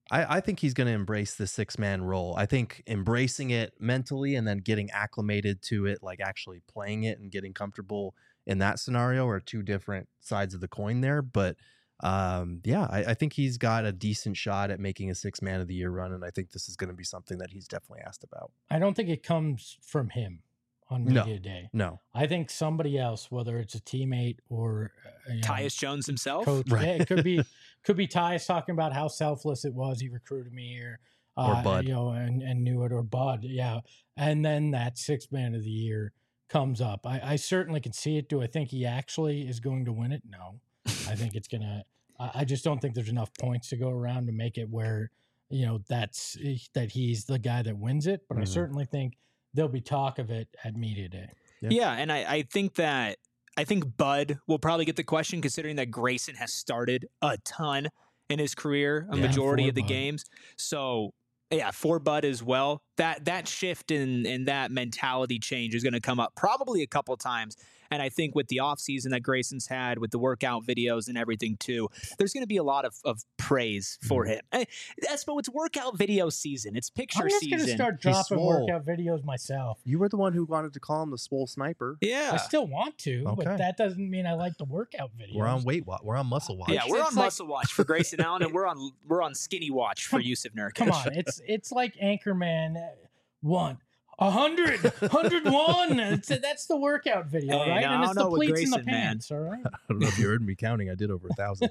I, I think he's going to embrace the six man role. I think embracing it mentally and then getting acclimated to it, like actually playing it and getting comfortable in that scenario, are two different sides of the coin there. But um, yeah, I, I think he's got a decent shot at making a six man of the year run. And I think this is going to be something that he's definitely asked about. I don't think it comes from him on No. media day. No. I think somebody else, whether it's a teammate or uh, you know, Tyus Jones himself. coach, Right. yeah, it could be could be Tyus talking about how selfless it was. He recruited me here, uh, Or Bud. you know, and, and knew it, or Bud, yeah. And then that six man of the year comes up. I, I certainly can see it. Do I think he actually is going to win it? No. I think it's gonna. I, I just don't think there's enough points to go around to make it where you know that's that he's the guy that wins it. But I Mhm. certainly think there'll be talk of it at media day. Yeah. Yeah, and I, I think that I think Bud will probably get the question, considering that Grayson has started a ton in his career, a Yeah, majority for of the Bud. games. So yeah, for Bud as well. That that shift in in that mentality change is going to come up probably a couple times. And I think with the offseason that Grayson's had, with the workout videos and everything too, there's going to be a lot of, of praise for Mhm. him. Hey, that's but it's workout video season. It's picture I'm just season. gonna start He's dropping swole. workout videos myself. You were the one who wanted to call him the swole sniper. yeah. I still want to, Okay. but that doesn't mean I like the workout videos. We're on weight watch. We're on muscle watch. Yeah, we're It's on like- muscle watch for Grayson Allen, and we're on we're on skinny watch for Come- Yusuf Nurkic. Come on, it's it's like Anchorman uh, one. A hundred, hundred one. It's, that's the workout video, Hey, right? no, and I it's don't the know with pleats in the Grayson, man. pants, all right? I don't know if you heard me counting. I did over a thousand.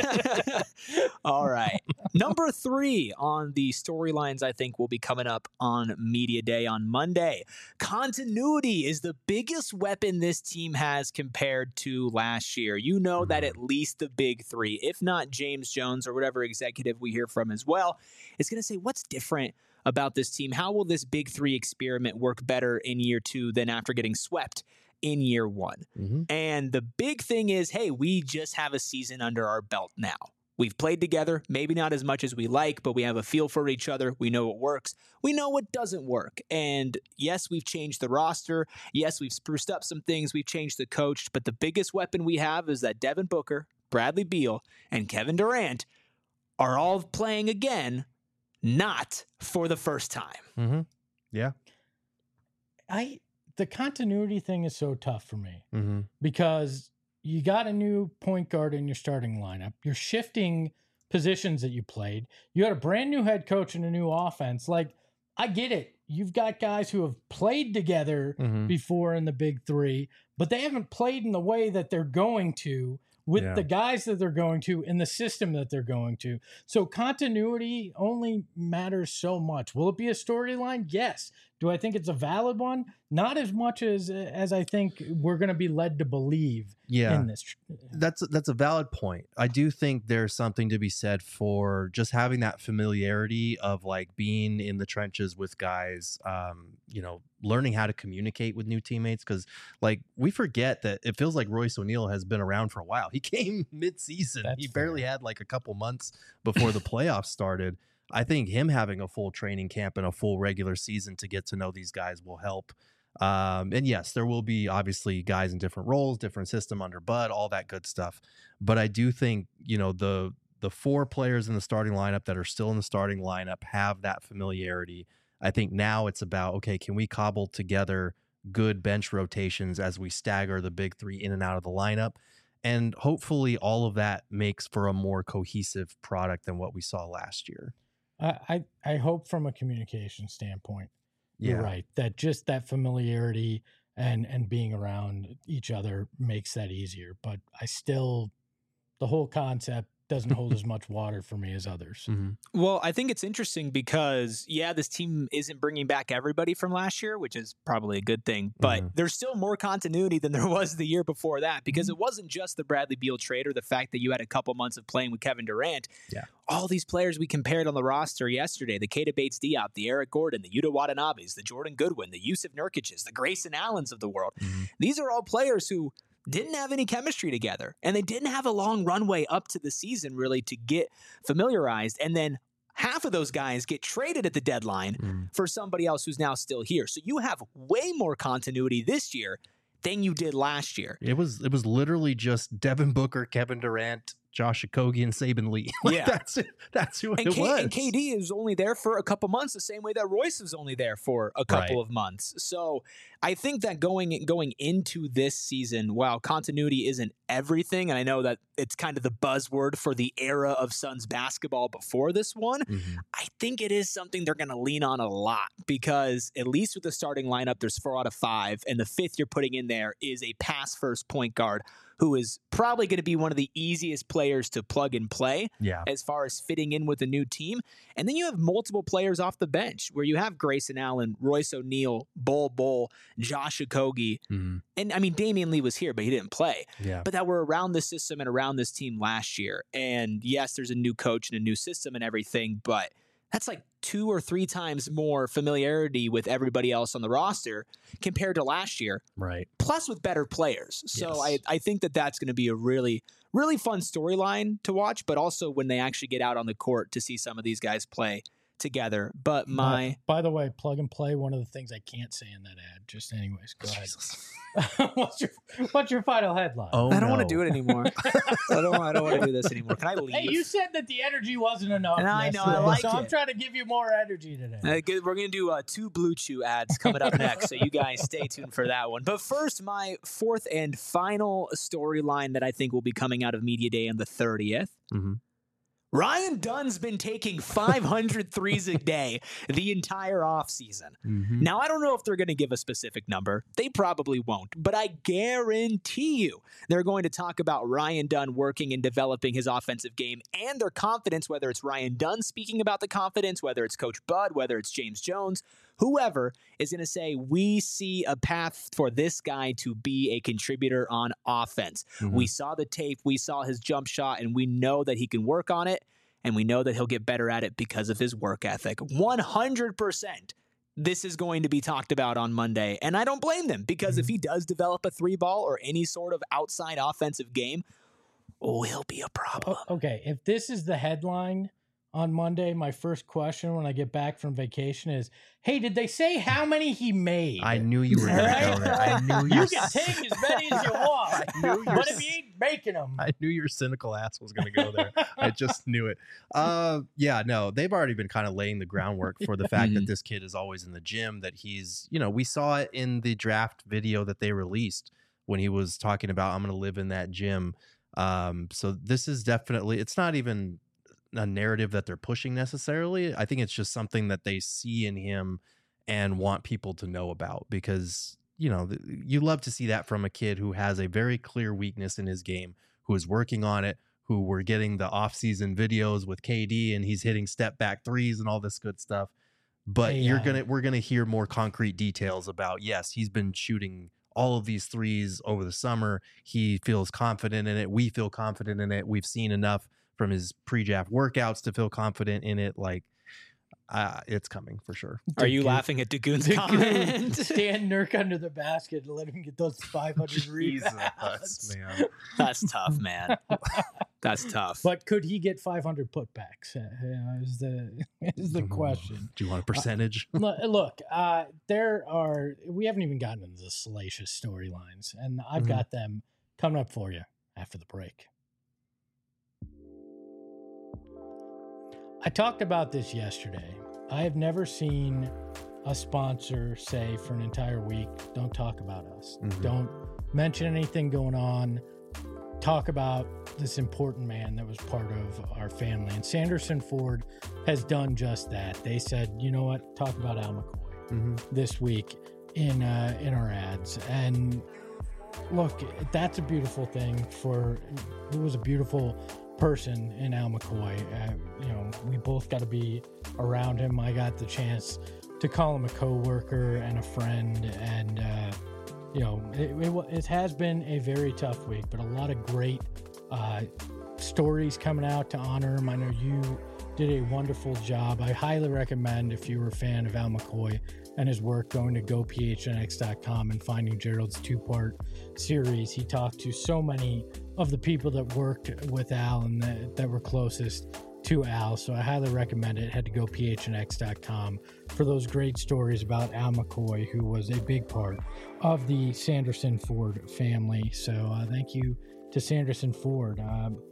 All right. Number three on the storylines I think will be coming up on Media Day on Monday. Continuity is the biggest weapon this team has compared to last year. You know that at least the big three, if not James Jones or whatever executive we hear from as well, is going to say what's different about this team. How will this big three experiment work better in year two than after getting swept in year one? Mm-hmm. And the big thing is, hey, we just have a season under our belt now. We've played together, maybe not as much as we like, but we have a feel for each other. We know what works. We know what doesn't work. And yes, we've changed the roster. Yes, we've spruced up some things. We've changed the coach. But the biggest weapon we have is that Devin Booker, Bradley Beal, and Kevin Durant are all playing again, not for the first time. Mm-hmm. Yeah. I the continuity thing is so tough for me Mm-hmm. because you got a new point guard in your starting lineup. You're shifting positions that you played. You had a brand new head coach and a new offense. Like, I get it. You've got guys who have played together Mm-hmm. before in the big three, but they haven't played in the way that they're going to with Yeah. the guys that they're going to in the system that they're going to. So continuity only matters so much. Will it be a storyline? Yes. Do I think it's a valid one? Not as much as as I think we're going to be led to believe Yeah. in this. That's that's a valid point. I do think there's something to be said for just having that familiarity of like being in the trenches with guys, um, you know, learning how to communicate with new teammates. Because like we forget that it feels like Royce O'Neal has been around for a while. He came mid-season. That's he barely fair. had like a couple months before the playoffs started. I think him having a full training camp and a full regular season to get to know these guys will help. Um, and yes, there will be obviously guys in different roles, different system under Bud, all that good stuff. But I do think, you know, the the four players in the starting lineup that are still in the starting lineup have that familiarity. I think now it's about, okay, can we cobble together good bench rotations as we stagger the big three in and out of the lineup? And hopefully all of that makes for a more cohesive product than what we saw last year. I, I, I hope from a communication standpoint, you're right, that just that familiarity and and being around each other makes that easier. But I still, the whole concept doesn't hold as much water for me as others. Mm-hmm. Well, I think it's interesting because, yeah, this team isn't bringing back everybody from last year, which is probably a good thing, but Mhm. there's still more continuity than there was the year before that because it wasn't just the Bradley Beal trade or the fact that you had a couple months of playing with Kevin Durant. Yeah. All these players we compared on the roster yesterday, the Keita Bates-Diop, the Eric Gordon, the Yuta Watanabes, the Jordan Goodwin, the Yusuf Nurkics, the Grayson Allens of the world. Mhm. These are all players who didn't have any chemistry together, and they didn't have a long runway up to the season really to get familiarized. And then half of those guys get traded at the deadline Mm-hmm. for somebody else who's now still here. So you have way more continuity this year than you did last year. It was it was literally just Devin Booker, Kevin Durant, Josh Okogie and Saban Lee. Like, Yeah. that's it. That's who And, it K- was. and K D is only there for a couple months, the same way that Royce was only there for a couple Right. of months. So I think that going going into this season, while continuity isn't everything, and I know that it's kind of the buzzword for the era of Suns basketball before this one, Mhm. I think it is something they're going to lean on a lot because at least with the starting lineup, there's four out of five, and the fifth you're putting in there is a pass first point guard who is probably going to be one of the easiest players to plug and play Yeah. as far as fitting in with a new team. And then you have multiple players off the bench where you have Grayson Allen, Royce O'Neal, Bol Bol, Josh Okogie. Mhm. And I mean, Damian Lee was here, but he didn't play. Yeah. But that were around the system and around this team last year. And yes, there's a new coach and a new system and everything, but that's like two or three times more familiarity with everybody else on the roster compared to last year, Right. plus with better players. So Yes. I, I think that that's going to be a really, really fun storyline to watch, but also when they actually get out on the court to see some of these guys play together. But my... By, by the way, plug and play, one of the things I can't say in that ad. Just anyways, go ahead. what's your what's your final headline? Oh, I don't want no. to do it anymore. I don't. I don't want to do this anymore. Can I leave? Hey, you said that the energy wasn't enough. And I know, I yesterday, like so I'm it. trying to give you more energy today. Uh, good. We're going to do uh, two Blue Chew ads coming up next, so you guys stay tuned for that one. But first, my fourth and final storyline that I think will be coming out of Media Day on the thirtieth. Mhm. Ryan Dunn's been taking five hundred threes a day the entire offseason. Mhm. Now, I don't know if they're going to give a specific number. They probably won't. But I guarantee you they're going to talk about Ryan Dunn working and developing his offensive game and their confidence, whether it's Ryan Dunn speaking about the confidence, whether it's Coach Bud, whether it's James Jones, whoever is going to say, we see a path for this guy to be a contributor on offense. Mhm. We saw the tape, we saw his jump shot, and we know that he can work on it. And we know that he'll get better at it because of his work ethic. one hundred percent this is going to be talked about on Monday. And I don't blame them because if he does develop a three ball or any sort of outside offensive game, oh, he'll be a problem. O- Okay, if this is the headline on Monday, my first question when I get back from vacation is, hey, did they say how many he made? I knew you were going to Right? go there. I knew you. You can take as many as you want, I knew you but were if you ain't making them, I knew your cynical ass was going to go there. I just knew it. Uh, yeah, no, they've already been kind of laying the groundwork for the fact that Mhm. this kid is always in the gym, that he's, you know, we saw it in the draft video that they released when he was talking about, I'm going to live in that gym. Um, so this is definitely, it's not even a narrative that they're pushing necessarily. I think it's just something that they see in him and want people to know about because, you know, th- you love to see that from a kid who has a very clear weakness in his game, who is working on it, who we're getting the off-season videos with K D and he's hitting step back threes and all this good stuff. But Hey, you're uh, gonna we're gonna hear more concrete details about, yes, he's been shooting all of these threes over the summer. He feels confident in it. We feel confident in it. We've seen enough from his pre-draft workouts to feel confident in it. Like, uh, it's coming for sure. Are you Dagoon- laughing at Dagoon's Dagoon, comment? stand Nurk under the basket and let him get those five hundred rebounds. man. That's tough, man. That's tough. But could he get five hundred putbacks? Uh, uh, is the is the question. Do you want a percentage? Look, look, uh, there are. We haven't even gotten into the salacious storylines, and I've Mhm. got them coming up for you after the break. I talked about this yesterday. I have never seen a sponsor say for an entire week, "Don't talk about us. Mhm. Don't mention anything going on. Talk about this important man that was part of our family." And Sanderson Ford has done just that. They said, you know what, talk about Al McCoy Mhm. this week in uh, in our ads. And look, that's a beautiful thing. For it was a beautiful person in Al McCoy. Uh, you know, we both got to be around him. I got the chance to call him a coworker and a friend, and uh, you know, it, it, wa- it has been a very tough week, but a lot of great uh, stories coming out to honor him. I know you did a wonderful job. I highly recommend, if you were a fan of Al McCoy and his work, going to go p h n x dot com and finding Gerald's two-part series. He talked to so many of the people that worked with Al and that, that were closest to Al, so I highly recommend it. Head to go p h n x dot com for those great stories about Al McCoy, who was a big part of the Sanderson Ford family. So uh, thank you to Sanderson Ford. Um,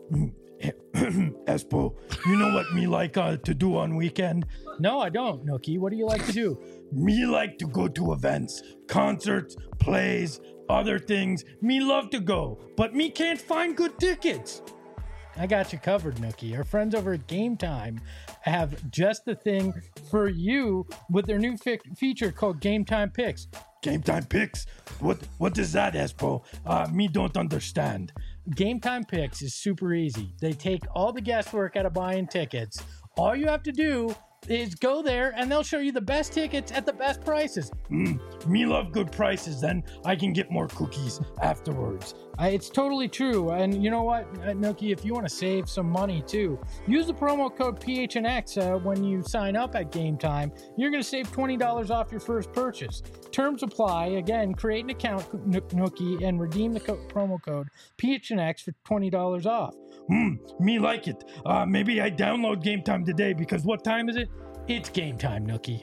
Espo, you know what me like uh, to do on weekend? No, I don't, Nookie. What do you like to do? Me like to go to events, concerts, plays, other things. Me love to go, but me can't find good tickets. I got you covered, Nookie. Our friends over at Game Time have just the thing for you with their new fi- feature called Game Time Picks. Game Time Picks? What What is that, Espo? Uh, me don't understand. Game Time Picks is super easy. They take all the guesswork out of buying tickets. All you have to do is go there and they'll show you the best tickets at the best prices. Mm, me love good prices, then I can get more cookies afterwards. I, it's totally true. And you know what, uh, Nookie, if you want to save some money too, use the promo code P H N X uh, when you sign up at Game Time. You're going to save twenty dollars off your first purchase. Terms apply. Again, create an account, Nookie, and redeem the co- promo code P H N X for twenty dollars off. Hmm, me like it. Uh, maybe I download Game Time today because what time is it? It's game time, Nookie.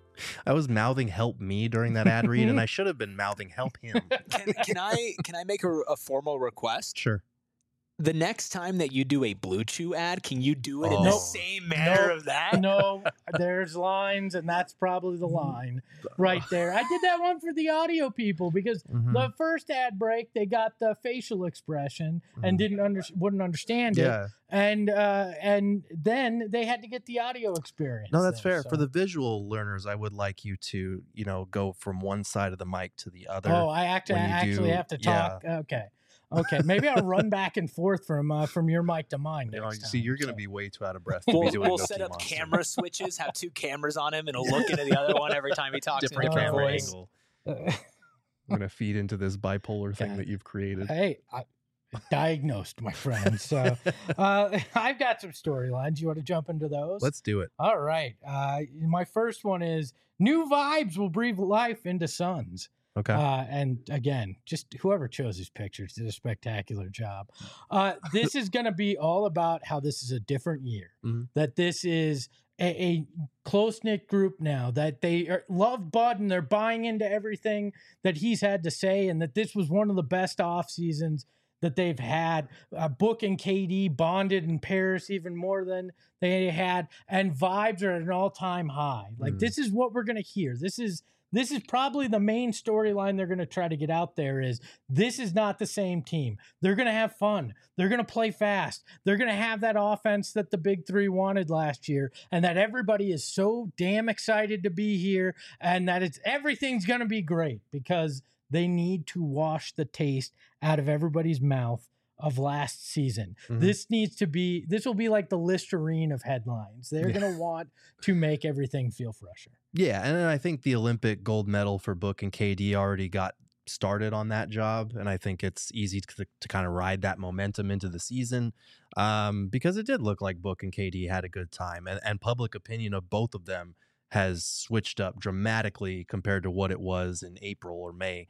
I was mouthing "help me" during that ad read, and I should have been mouthing "help him." Can, can I can I make a, a formal request? Sure. The next time that you do a Blue Chew ad, can you do it in Oh. the Nope. same manner Nope. of that? No, there's lines, and that's probably the line right there. I did that one for the audio people because Mhm. the first ad break, they got the facial expression and Mhm. didn't under, wouldn't understand it, Yeah. and uh, and then they had to get the audio experience. No, that's there, fair. For so- the visual learners, I would like you to, you know, go from one side of the mic to the other. Oh, I act- when you actually do- have to talk. Okay. Okay, maybe I'll run back and forth from uh, from your mic to mine. You know, next see, time, you're going to so. be way too out of breath to We'll, be doing we'll Nookie set up Monster. camera switches, have two cameras on him, and he'll look into the other one every time he talks different in a different camera voice. angle. I'm going to feed into this bipolar thing God. that you've created. Hey, I, diagnosed, my friend. So uh, I've got some storylines. You want to jump into those? Let's do it. All right. Uh, my first one is new vibes will breathe life into Suns. Okay. Uh, and again, just whoever chose these pictures did a spectacular job. Uh, this is going to be all about how this is a different year, Mhm. that this is a, a close knit group now, that they are, love Bud and they're buying into everything that he's had to say, and that this was one of the best off seasons that they've had. Uh, Book and K D bonded in Paris even more than they had, and vibes are at an all time high. Like Mm. this is what we're going to hear. This is This is probably the main storyline they're going to try to get out there is this is not the same team. They're going to have fun. They're going to play fast. They're going to have that offense that the big three wanted last year, and that everybody is so damn excited to be here, and that it's everything's going to be great because they need to wash the taste out of everybody's mouth of last season. Mhm. This needs to be, this will be like the Listerine of headlines. They're Yeah. going to want to make everything feel fresher. Yeah, and I think the Olympic gold medal for Book and K D already got started on that job, and I think it's easy to, to kind of ride that momentum into the season um, because it did look like Book and K D had a good time, and, and public opinion of both of them has switched up dramatically compared to what it was in April or May.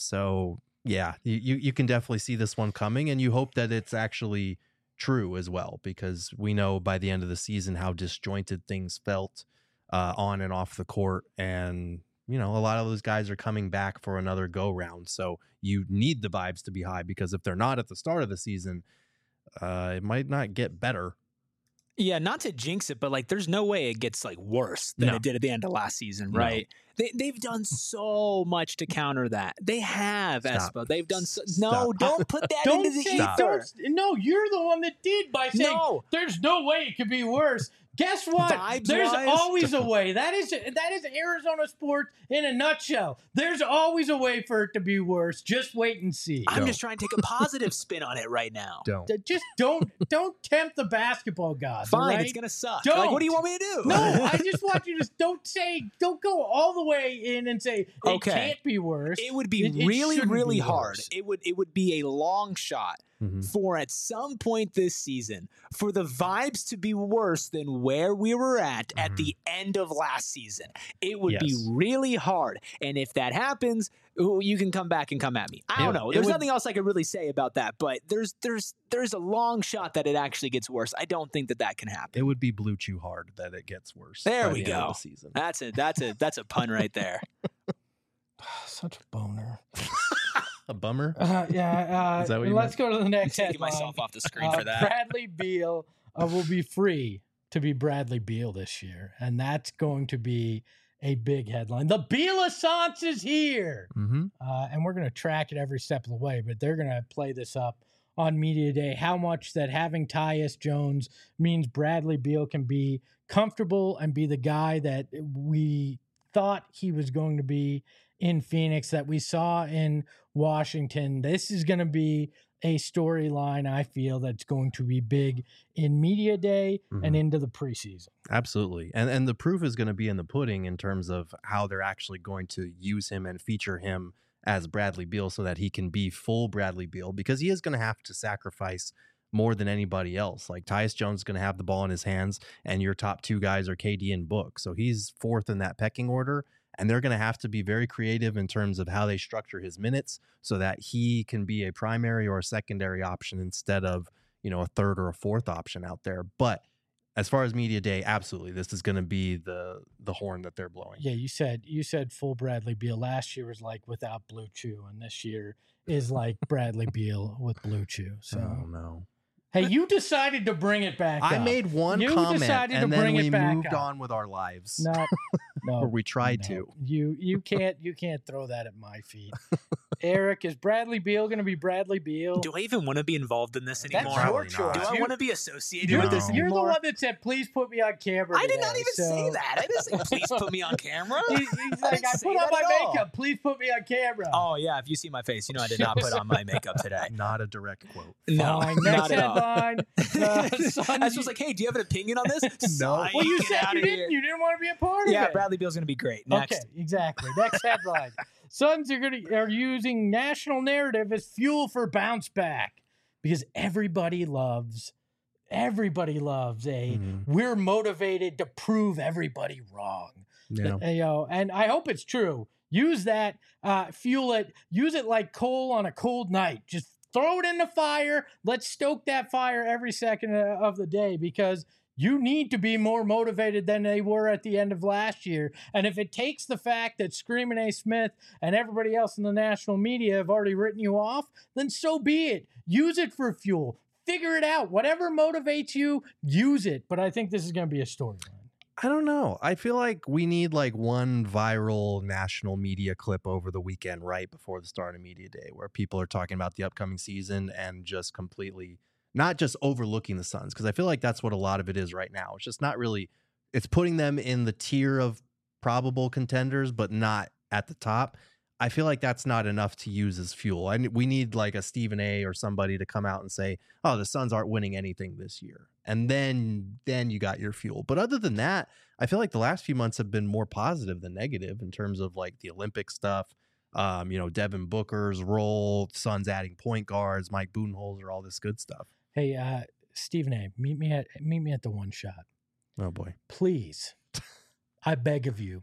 So yeah, you, you, you can definitely see this one coming, and you hope that it's actually true as well, because we know by the end of the season how disjointed things felt uh, on and off the court. And, you know, a lot of those guys are coming back for another go round. So you need the vibes to be high, because if they're not at the start of the season, uh, it might not get better. Yeah, not to jinx it, but like, there's no way it gets like worse than No. it did at the end of last season, No. right? They they've done so much to counter that. They have, Stop. Espo. They've done so. Stop. No, don't put that Don't into the say, Stop. ether. don't, no, you're the one that did by saying No. there's no way it could be worse. Guess what? Vibes There's wise? always a way. That is that is Arizona sports in a nutshell. There's always a way for it to be worse. Just wait and see. I'm Don't. just trying to take a positive spin on it right now. Don't. D- Just don't don't tempt the basketball gods. all Fine, right? it's gonna suck. Don't. Like, what do you want me to do? No, I just want you to don't say don't go all the way in and say it Okay. can't be worse. It would be It- it really, shouldn't really be hard. worse. It would it would be a long shot Mhm. for at some point this season for the vibes to be worse than where we were at at Mhm. the end of last season. It would be Yes. really hard. And if that happens, ooh, you can come back and come at me. I don't It- know. it There's would- nothing else I could really say about that, but there's there's there's a long shot that it actually gets worse. I don't think that that can happen. It would be Blue Chew hard that it gets worse. There by we the end of go. the season. That's a that's a that's a pun right there. Such a boner. A bummer. Uh, yeah. Uh, Is that what you let's go to the I'm next taking headline. myself off the screen Uh, for that. Bradley Beal uh, will be free to be Bradley Beal this year, and that's going to be a big headline. The Beal-assance is here, Mm-hmm. uh, and we're going to track it every step of the way, but they're going to play this up on Media Day, how much that having Tyus Jones means Bradley Beal can be comfortable and be the guy that we thought he was going to be in Phoenix, that we saw in Washington. This is going to be a storyline, I feel, that's going to be big in Media Day Mhm. and into the preseason. Absolutely. And and the proof is going to be in the pudding in terms of how they're actually going to use him and feature him as Bradley Beal so that he can be full Bradley Beal, because he is going to have to sacrifice more than anybody else. Like Tyus Jones is going to have the ball in his hands, and your top two guys are K D and Book. So he's fourth in that pecking order, and they're going to have to be very creative in terms of how they structure his minutes so that he can be a primary or a secondary option instead of, you know, a third or a fourth option out there. But as far as Media Day, absolutely, this is going to be the the horn that they're blowing. Yeah, you said you said full Bradley Beal. Last year was like without Blue Chew, and this year is like Bradley Beal with Blue Chew. So Oh, no. hey, you decided to bring it back. I up. made one You comment, decided to and then bring it we back moved up. on with our lives. No, no, Or we tried no. to. You you can't you can't throw that at my feet. Eric, is Bradley Beal going to be Bradley Beal? Do I even want to be involved in this That's anymore? your Probably choice. not. Do I You- want to be associated You're, with the, this No. you're the anymore? one that said, "Please put me on camera." I did not today," even so- say that. I didn't say, please put me on camera. He- he's I like, didn't "I say put on that my at all. makeup. Please put me on camera." Oh, yeah. If you see my face, you know I did not put on my makeup today. Not a direct quote. No, Fine. not Next at all. headline. The Suns- I was just like, hey, do you have an opinion on this? No. Psych, well, you get said outta you didn't. here. You didn't want to be a part of Yeah, it. Bradley Beal's going to be great. Next. Okay, exactly. Next headline. Suns are going to are using national narrative as fuel for bounce back because everybody loves everybody loves a Mhm. we're motivated to prove everybody wrong. Yeah. Uh, you know, and I hope it's true. Use that, uh, fuel it, use it like coal on a cold night. Just throw it in the fire. Let's stoke that fire every second uh, of the day because you need to be more motivated than they were at the end of last year. And if it takes the fact that Screaming A. Smith and everybody else in the national media have already written you off, then so be it. Use it for fuel. Figure it out. Whatever motivates you, use it. But I think this is going to be a storyline. I don't know. I feel like we need like one viral national media clip over the weekend right before the start of Media Day where people are talking about the upcoming season and just completely not just overlooking the Suns, because I feel like that's what a lot of it is right now. It's just not really, it's putting them in the tier of probable contenders, but not at the top. I feel like that's not enough to use as fuel. I we need like a Stephen A or somebody to come out and say, "Oh, the Suns aren't winning anything this year," and then then you got your fuel. But other than that, I feel like the last few months have been more positive than negative in terms of like the Olympic stuff. Um, you know, Devin Booker's role, Suns adding point guards, Mike Budenholzer, all this good stuff. Hey, uh, Stephen A., meet me at meet me at the one shot. Oh boy, Please. I beg of you.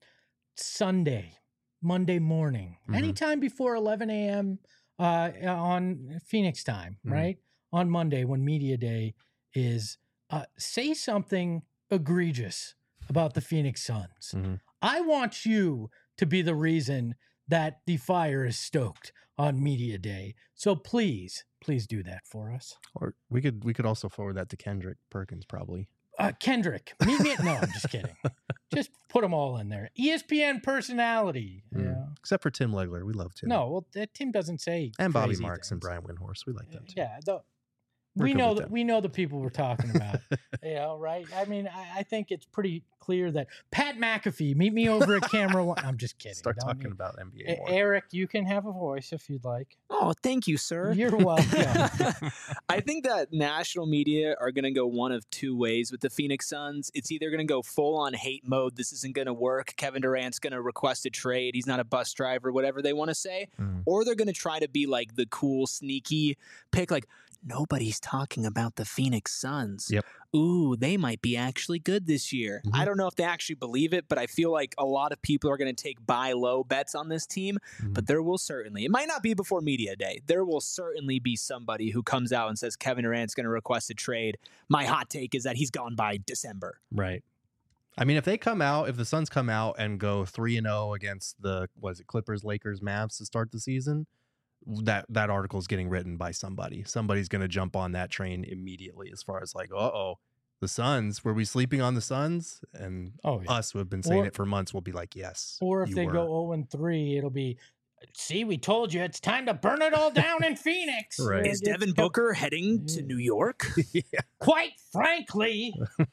Sunday, Monday morning, Mhm. anytime before eleven a.m. Uh, on Phoenix time, Mhm. right? On Monday when Media Day is, uh, say something egregious about the Phoenix Suns. Mhm. I want you to be the reason that the fire is stoked on Media Day. So please, please do that for us. Or we could we could also forward that to Kendrick Perkins probably. Uh, Kendrick, meet me at, no, I'm just kidding. Just put them all in there. E S P N personality. Mm. Yeah. Except for Tim Legler, we love Tim. No, well, that Tim doesn't say and Bobby crazy Marks and things. Brian Windhorst, we like them too. Yeah, the, We're we good know with that them. we know the people we're talking about. You know, right? I mean, I, I think it's pretty clear that Pat McAfee, meet me over at camera one. I'm just kidding. Start Don't talking need- about N B A E- more. Eric, you can have a voice if you'd like. Oh, thank you, sir. You're welcome. I think that national media are going to go one of two ways with the Phoenix Suns. It's either going to go full on hate mode. This isn't going to work. Kevin Durant's going to request a trade. He's not a bus driver, whatever they want to say. Mm. Or they're going to try to be like the cool, sneaky pick, like, nobody's talking about the Phoenix Suns. Yep. Ooh, they might be actually good this year. Mhm. I don't know if they actually believe it, but I feel like a lot of people are going to take buy low bets on this team. Mhm. But there will certainly, it might not be before Media Day, there will certainly be somebody who comes out and says Kevin Durant's going to request a trade. My hot take is that he's gone by December. Right. I mean, if they come out, if the Suns come out and go three and zero against the was it Clippers, Lakers, Mavs to start the season, that that article is getting written by somebody. Somebody's going to jump on that train immediately as far as like, uh-oh, the Suns, were we sleeping on the Suns? And Oh, yeah. us who have been saying Or- it for months will be like, yes. Or if you they were. go oh and three, it'll be, see, we told you it's time to burn it all down in Phoenix. Right. Is It's- Devin Booker heading to New York? Quite frankly.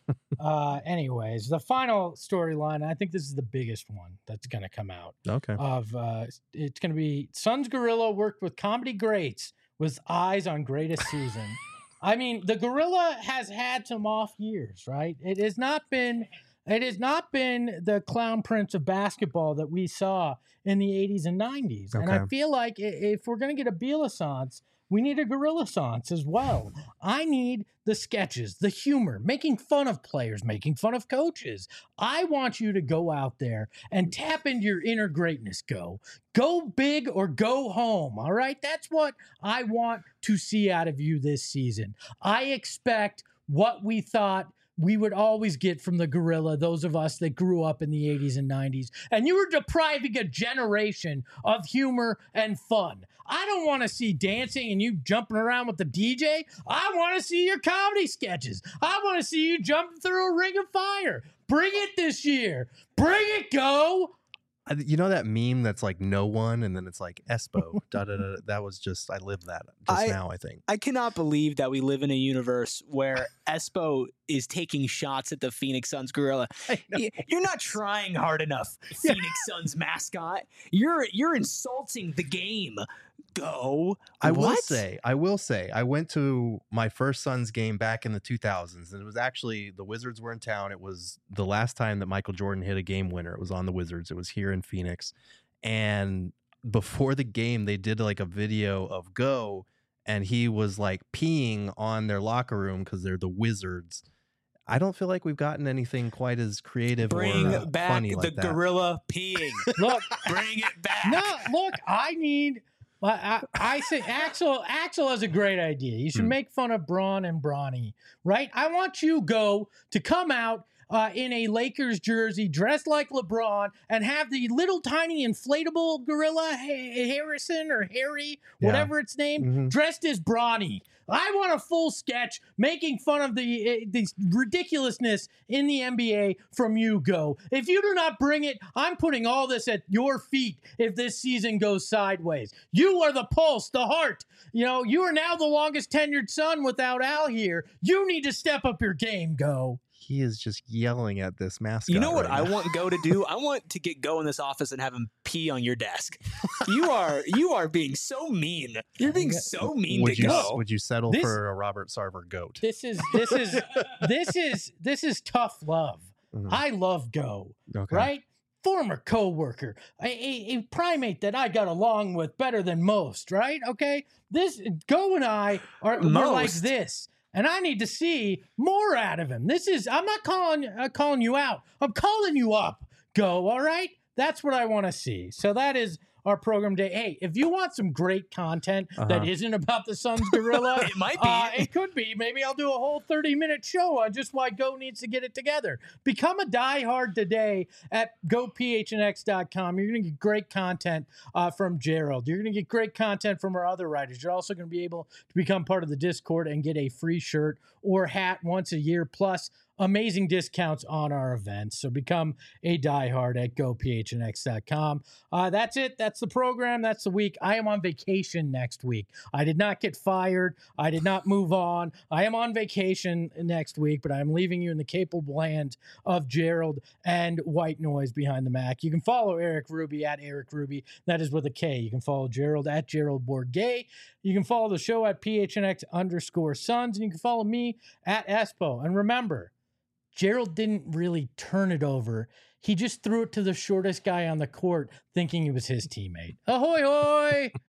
uh, anyways, the final storyline, I think this is the biggest one that's going to come out. Okay. Of uh, it's going to be Suns Gorilla worked with comedy greats with eyes on greatest season. I mean, the Gorilla has had some off years, right? It has not been, it has not been the clown prince of basketball that we saw in the eighties and nineties. And I Okay. feel like i- if we're going to get a Bielassance, we need a Gorilla-sance as well. I need the sketches, the humor, making fun of players, making fun of coaches. I want you to go out there and tap into your inner greatness. Go. Go big or go home. All right? That's what I want to see out of you this season. I expect what we thought we would always get from the Gorilla, those of us that grew up in the eighties and nineties. And you were depriving a generation of humor and fun. I don't want to see dancing and you jumping around with the D J. I want to see your comedy sketches. I want to see you jumping through a ring of fire. Bring it this year. Bring it, go. I, you know that meme that's like no one and then it's like Espo. da, da, da, that was just, I lived that just I- now, I think. I cannot believe that we live in a universe where Espo is taking shots at the Phoenix Suns Gorilla. Y- You're not trying hard enough, Phoenix Suns mascot. You're you're insulting the game. Go. I will What? say, I will say, I went to my first Suns game back in the two thousands, and it was actually the Wizards were in town. It was the last time that Michael Jordan hit a game winner. It was on the Wizards. It was here in Phoenix. And before the game, they did like a video of Go, and he was like peeing on their locker room because they're the Wizards. I don't feel like we've gotten anything quite as creative Bring or uh, back funny the like that. gorilla peeing. Look, Bring it back. no, look, I need. I, I, I say Axel. Axel has a great idea. You should Hmm. make fun of Braun and Bronny, right? I want you go to come out uh, in a Lakers jersey, dressed like LeBron, and have the little tiny inflatable gorilla Ha- Harrison or Harry, Yeah. whatever its name, Mhm. dressed as Bronny. I want a full sketch making fun of the uh, the ridiculousness in the N B A from you, Go. If you do not bring it, I'm putting all this at your feet if this season goes sideways. You are the pulse, the heart. You know, you are now the longest tenured Sun without Al here. You need to step up your game, Go. He is just yelling at this mascot. You know what right I now. want Go to do? I want to get Go in this office and have him pee on your desk. You are you are being so mean. You're being so mean Would to you Go. would you settle This- for a Robert Sarver goat? This is this is this is this is tough love. Mhm. I love Go. Okay. Right? Former coworker, a, a, a primate that I got along with better than most, right? Okay, this Go and I are we're like Most. this, and I need to see more out of him. This is I'm not calling uh, calling you out. I'm calling you up. Go, all right? That's what I want to see. So that is our program day. Hey, if you want some great content that Uh-huh. isn't about the Suns Gorilla, It might be. uh, it could be. Maybe I'll do a whole thirty minute show on just why Go needs to get it together. Become a diehard today at go p h n x dot com. You're going to get great content uh, from Gerald. You're going to get great content from our other writers. You're also going to be able to become part of the Discord and get a free shirt or hat once a year, plus amazing discounts on our events. So become a diehard at go p h n x dot com. Uh, that's it. That's the program. That's the week. I am on vacation next week. I did not get fired. I did not move on. I am on vacation next week, but I'm leaving you in the capable hands of Gerald and White Noise behind the Mac. You can follow Eric Ruby at Eric Ruby. That is with a K. You can follow Gerald at Gerald Bourgay. You can follow the show at P H N X underscore Suns, and you can follow me at Espo. And remember, Gerald didn't really turn it over. He just threw it to the shortest guy on the court, thinking he was his teammate. Ahoy, hoy!